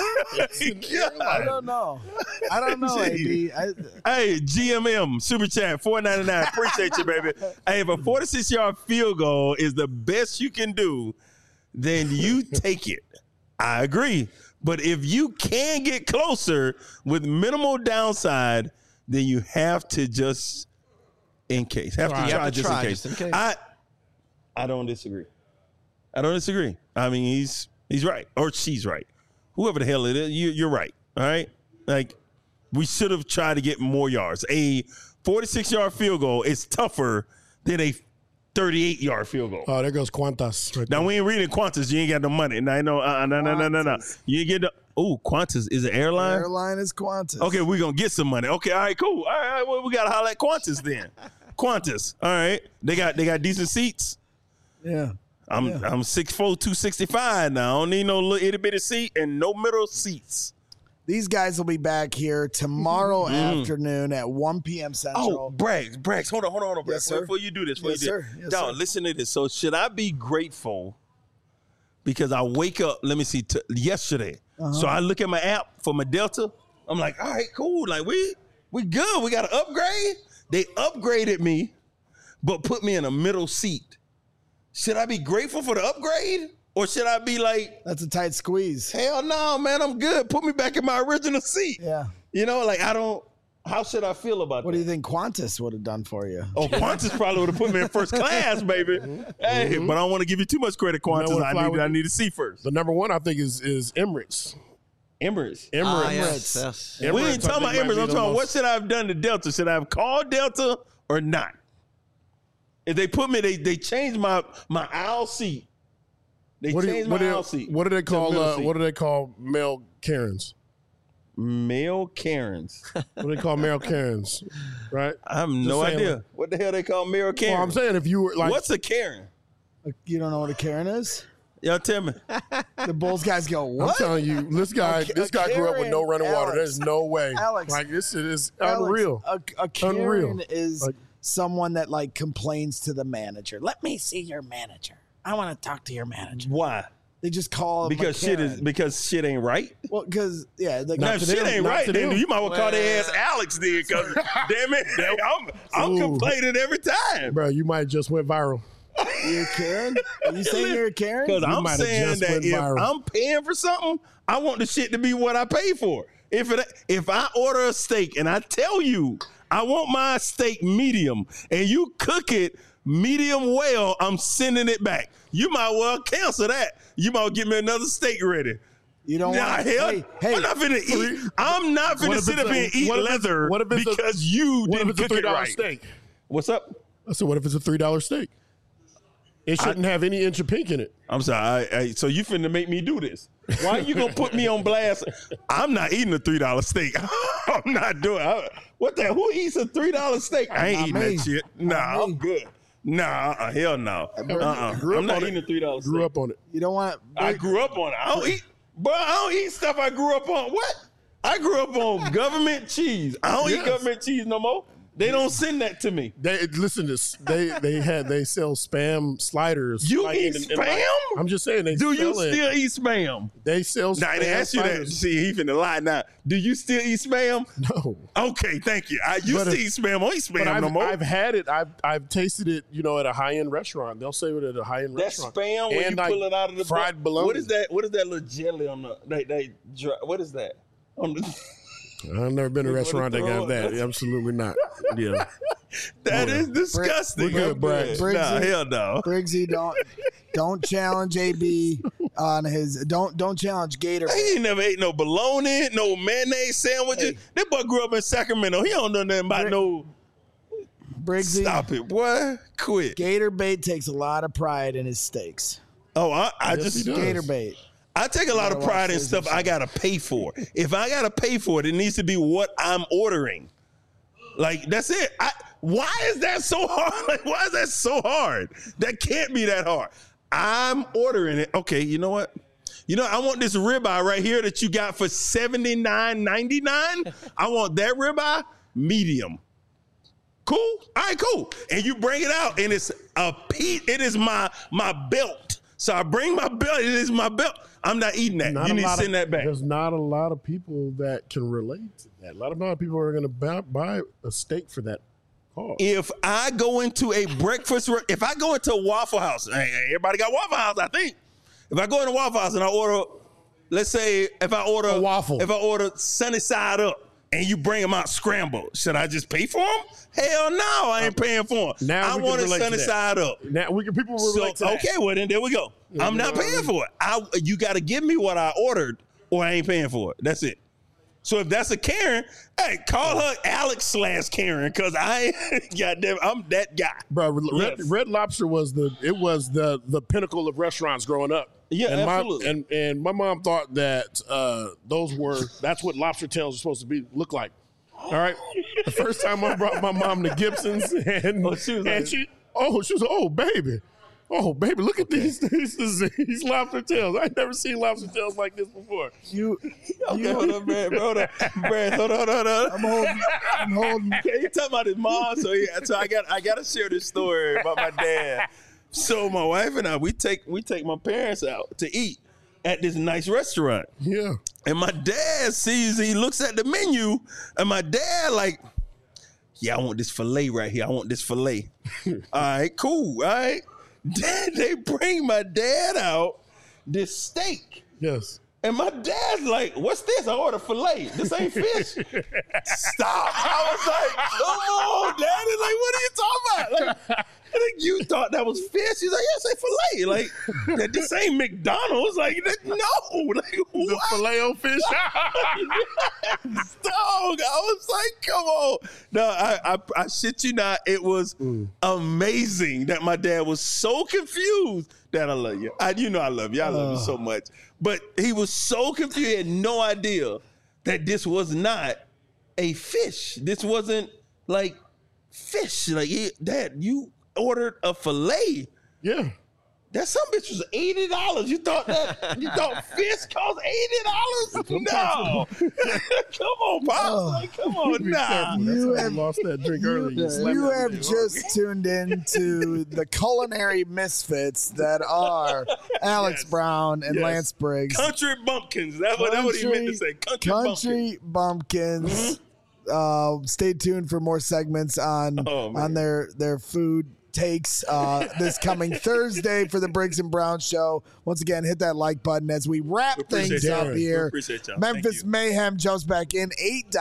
I don't know, AB. Hey, GMM, Super Chat, $4.99. Appreciate you, baby. Hey, if a 46-yard field goal is the best you can do, then you take it. I agree. But if you can get closer with minimal downside, then you have to just in case. Have to try just in case. I don't disagree. I mean, he's right. Or she's right. Whoever the hell it is, you're right. All right? Like, we should have tried to get more yards. A 46-yard field goal is tougher than a 38-yard field goal. Oh, there goes Qantas. Right now, there. we ain't reading Qantas. You ain't got no money. Now, no. You ain't get the. Oh, Qantas is an airline? Airline is Qantas. Okay, we're going to get some money. Okay, all right, cool. All right, well, we got to holler at Qantas then. Qantas. All right. They got decent seats. Yeah. I'm 6'4", 265 now. I don't need no little itty-bitty seat and no middle seats. These guys will be back here tomorrow afternoon at 1 p.m. Central. Oh, Braggs. Hold on, Braggs. Yes, sir. Before you do this. Yes, sir. Dog, listen to this. So should I be grateful because I wake up, let me see, yesterday. So I look at my app for my Delta. I'm like, all right, cool. Like, we good. We got an upgrade. They upgraded me, but put me in a middle seat. Should I be grateful for the upgrade? Or should I be like, that's a tight squeeze. Hell no, man, I'm good. Put me back in my original seat. Yeah. You know, like how should I feel about that? What do you think Qantas would have done for you? Oh, Qantas probably would have put me in first class, baby. Hey, but I don't want to give you too much credit, Qantas. I need to see first. The number one, I think, is Emirates. Emirates. Yes. We ain't talking about Emirates. I'm talking what should I have done to Delta? Should I have called Delta or not? If they put me, they changed my aisle seat They changed my aisle seat. What do they call? What do they call male Karens? Male Karens. What do they call male Karens? Right? I have no idea. What the hell they call male Karens? Well, I'm saying if you were like, what's a Karen? You don't know what a Karen is? Y'all tell me. The Bulls guys go, what? I'm telling you, this guy grew up with no running water. There's no way. Alex, like this is unreal. A Karen is someone that like complains to the manager. Let me see your manager. I want to talk to your manager. Why? They just call him because shit ain't right. Well, because now shit ain't right, then you might well call their ass Alex then. Because damn it, I'm complaining every time, bro. You might just went viral. You're a Karen? Are you saying you're a Karen? Because I'm saying that if I'm paying for something, I want the shit to be what I pay for. If I order a steak and I tell you I want my steak medium and you cook it medium well, I'm sending it back. You might well cancel that. You might give me another steak ready. You don't want hey, I'm not finna eat. I'm not finna sit up here and eat leather because you didn't cook it right. Steak? What's up? I said, what if it's a $3 steak? It shouldn't have any inch of pink in it. I'm sorry. So you finna make me do this? Why you gonna put me on blast? I'm not eating a $3 steak. I'm not doing it. What the? Who eats a $3 steak? I ain't eating that shit. Nah, I'm good. Nah, hell no. I'm not eating a $3 steak. Grew up on it. You don't want. I grew up on it. I don't eat stuff I grew up on. What? I grew up on government cheese. I don't eat government cheese no more. They don't send that to me. They sell Spam sliders. You eat Spam? I'm just saying. Do you still eat Spam? They sell Spam. Now, they ask you that. See, he finna lie now. Do you still eat Spam? No. Okay, thank you. I used to eat Spam. I don't eat Spam no more. I've had it. I've tasted it, at a high-end restaurant. They'll say it at a high-end restaurant. That Spam, when you pull it out of the fried bologna. What is that little jelly on the, what is that? On the... I've never been to a restaurant that got that. Absolutely not. Yeah. That is disgusting. We're good, Braggs. Nah, hell no. Briggsy, don't challenge AB on his. Don't challenge Gator. He ain't never ate no bologna, no mayonnaise sandwiches. Hey. That boy grew up in Sacramento. He don't know nothing about no. Briggsy, stop it, boy. Quit. Gator Bait takes a lot of pride in his steaks. Oh, I just Gator Bait. I take a lot of pride in stuff I gotta pay for. If I gotta pay for it, it needs to be what I'm ordering. Like, that's it. Why is that so hard? Like, why is that so hard? That can't be that hard. I'm ordering it. Okay, you know what? I want this ribeye right here that you got for $79.99. I want that ribeye medium. Cool? All right, cool. And you bring it out, and it's a piece. It is my belt. So I bring my belt. It is my belt. I'm not eating that. You need to send that back. There's not a lot of people that can relate to that. A lot of people are going to buy a steak for that cost. If I go into a breakfast, if I go into a Waffle House, everybody got Waffle House, I think. If I go into Waffle House and I order, let's say if I order a waffle, if I order sunny side up and you bring them out scrambled, should I just pay for them? Hell no, I ain't paying for them. Now I want it sunny side up. Now people will relate to that. Okay, well then there we go. I'm not paying for it. You got to give me what I ordered, or I ain't paying for it. That's it. So if that's a Karen, hey, call her Alex/Karen, because goddamn, I'm that guy. Bro, Red Lobster was the pinnacle of restaurants growing up. Yeah, and absolutely. And my mom thought that that's what lobster tails are supposed to look like. All right. The first time I brought my mom to Gibson's, and she was oh baby, look at these lobster tails. I've never seen lobster tails like this before. Hold on, Brad. Hold on. I'm holding. You talking about his mom? So I got to share this story about my dad. So my wife and I, we take my parents out to eat at this nice restaurant. Yeah. And my dad he looks at the menu, and my dad like, yeah, I want this filet right here. I want this filet. All right, cool. All right. Then they bring my dad out this steak. Yes. And my dad's like, what's this? I ordered filet. This ain't fish. Stop. I was like, come on, Daddy. Like, what are you talking about? Like, Like, you thought that was fish? He's like, yeah, say filet. Like, this ain't McDonald's. Like, no. Like, The Filet-O-Fish. Dog, I was like, come on. No, I shit you not. It was amazing that my dad was so confused. Dad, I love you. You know I love you. I love you so much. But he was so confused. He had no idea that this was not a fish. This wasn't like fish. Like, Dad, you ordered a filet. Yeah. That some bitch was $80. You thought fish cost $80? No. Come on, Pops. Like, come on, nah. You have lost that drink early. You have just tuned in to the culinary misfits that are Alex Brown and Lance Briggs. Country bumpkins. That's what he meant to say. Country bumpkins. Stay tuned for more segments on their food takes this coming Thursday for the Briggs and Brown Show. Once again, hit that like button as we wrap things up here. Memphis Mayhem jumps back in,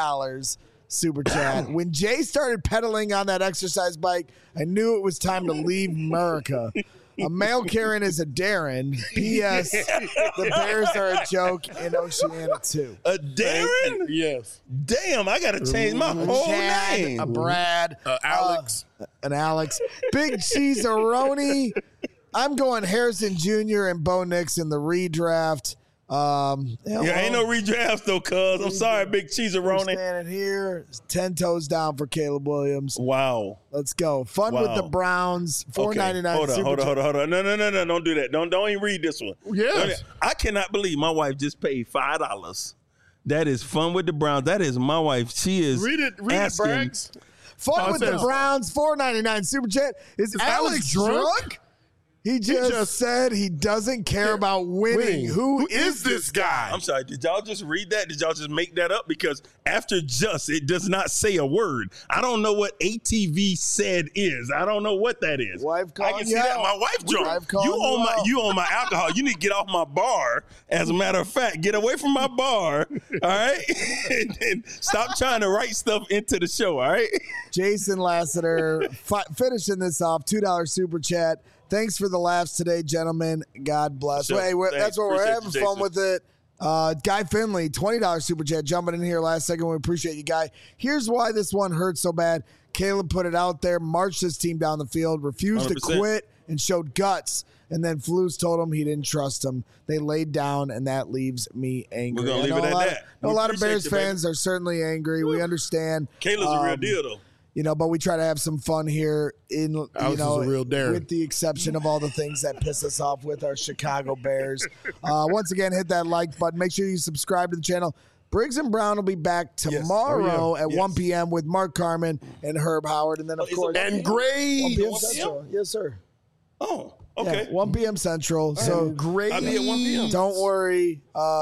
$8 super chat. When Jay started pedaling on that exercise bike, I knew it was time to leave America. A male Karen is a Darren. P.S. The Bears are a joke in Oceania too. A Darren? Yes. Damn, I got to change my whole name. A Brad. Alex. An Alex. Big Cheese-a-roni. I'm going Harrison Jr. and Bo Nix in the redraft. Ain't no redrafts though, cuz. I'm sorry, Big Cheese-a-roni. Standing here, 10 toes down for Caleb Williams. Wow. Let's go. Fun with the Browns. $4.99. Okay. Hold on. No. Don't do that. Don't even read this one. Yes. I cannot believe my wife just paid $5. That is Fun with the Browns. That is my wife. She is Read it, Braggs. Fun with the Browns. $4.99 super chat. Is Alex drunk? He just said he doesn't care about winning. Who is this guy? I'm sorry. Did y'all just read that? Did y'all just make that up? Because after just, it does not say a word. I don't know what ATV said is. I don't know what that is. Wife I can see that. My wife drunk. You on my alcohol. You need to get off my bar. As a matter of fact, get away from my bar. All right? and stop trying to write stuff into the show. All right? Jason Lassiter finishing this off. $2 super chat. Thanks for the laughs today, gentlemen. God bless. Sure. Hey, that's what we're having fun with it. Guy Finley, $20 super chat, jumping in here last second. We appreciate you, Guy. Here's why this one hurts so bad. Caleb put it out there, marched his team down the field, refused 100%. To quit, and showed guts. And then Flus told him he didn't trust him. They laid down, and that leaves me angry. We're going to leave it at that. A lot of Bears fans are certainly angry. We understand. Caleb's a real deal, though. But we try to have some fun here in, a real Darren. With the exception of all the things that piss us off with our Chicago Bears. Once again, hit that like button. Make sure you subscribe to the channel. Briggs and Brown will be back tomorrow at 1 p.m. with Mark Carmen and Herb Howard. And then, of course, and Gray. 1 p.m. Central. Yes, sir. Oh, okay. 1 p.m. Central. So great. I'll be at 1 p.m. Don't worry,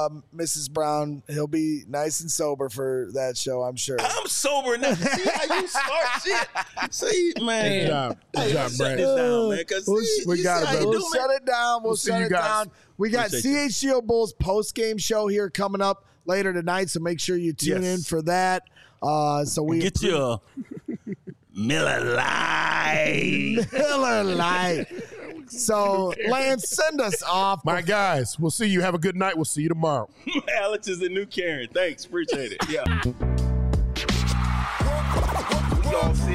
Mrs. Brown. He'll be nice and sober for that show, I'm sure. I'm sober now. See how you start shit? See, man. Good job, Brad. Shut this down, man. We got it, bro. We'll shut it down. We'll shut it down. We got CHGO Bulls post-game show here coming up later tonight, so make sure you tune in for that. So we get your Miller Lite. Miller Lite. So, Lance, send us off. My guys, we'll see you. Have a good night. We'll see you tomorrow. Alex is the new Karen. Thanks. Appreciate it. Yeah.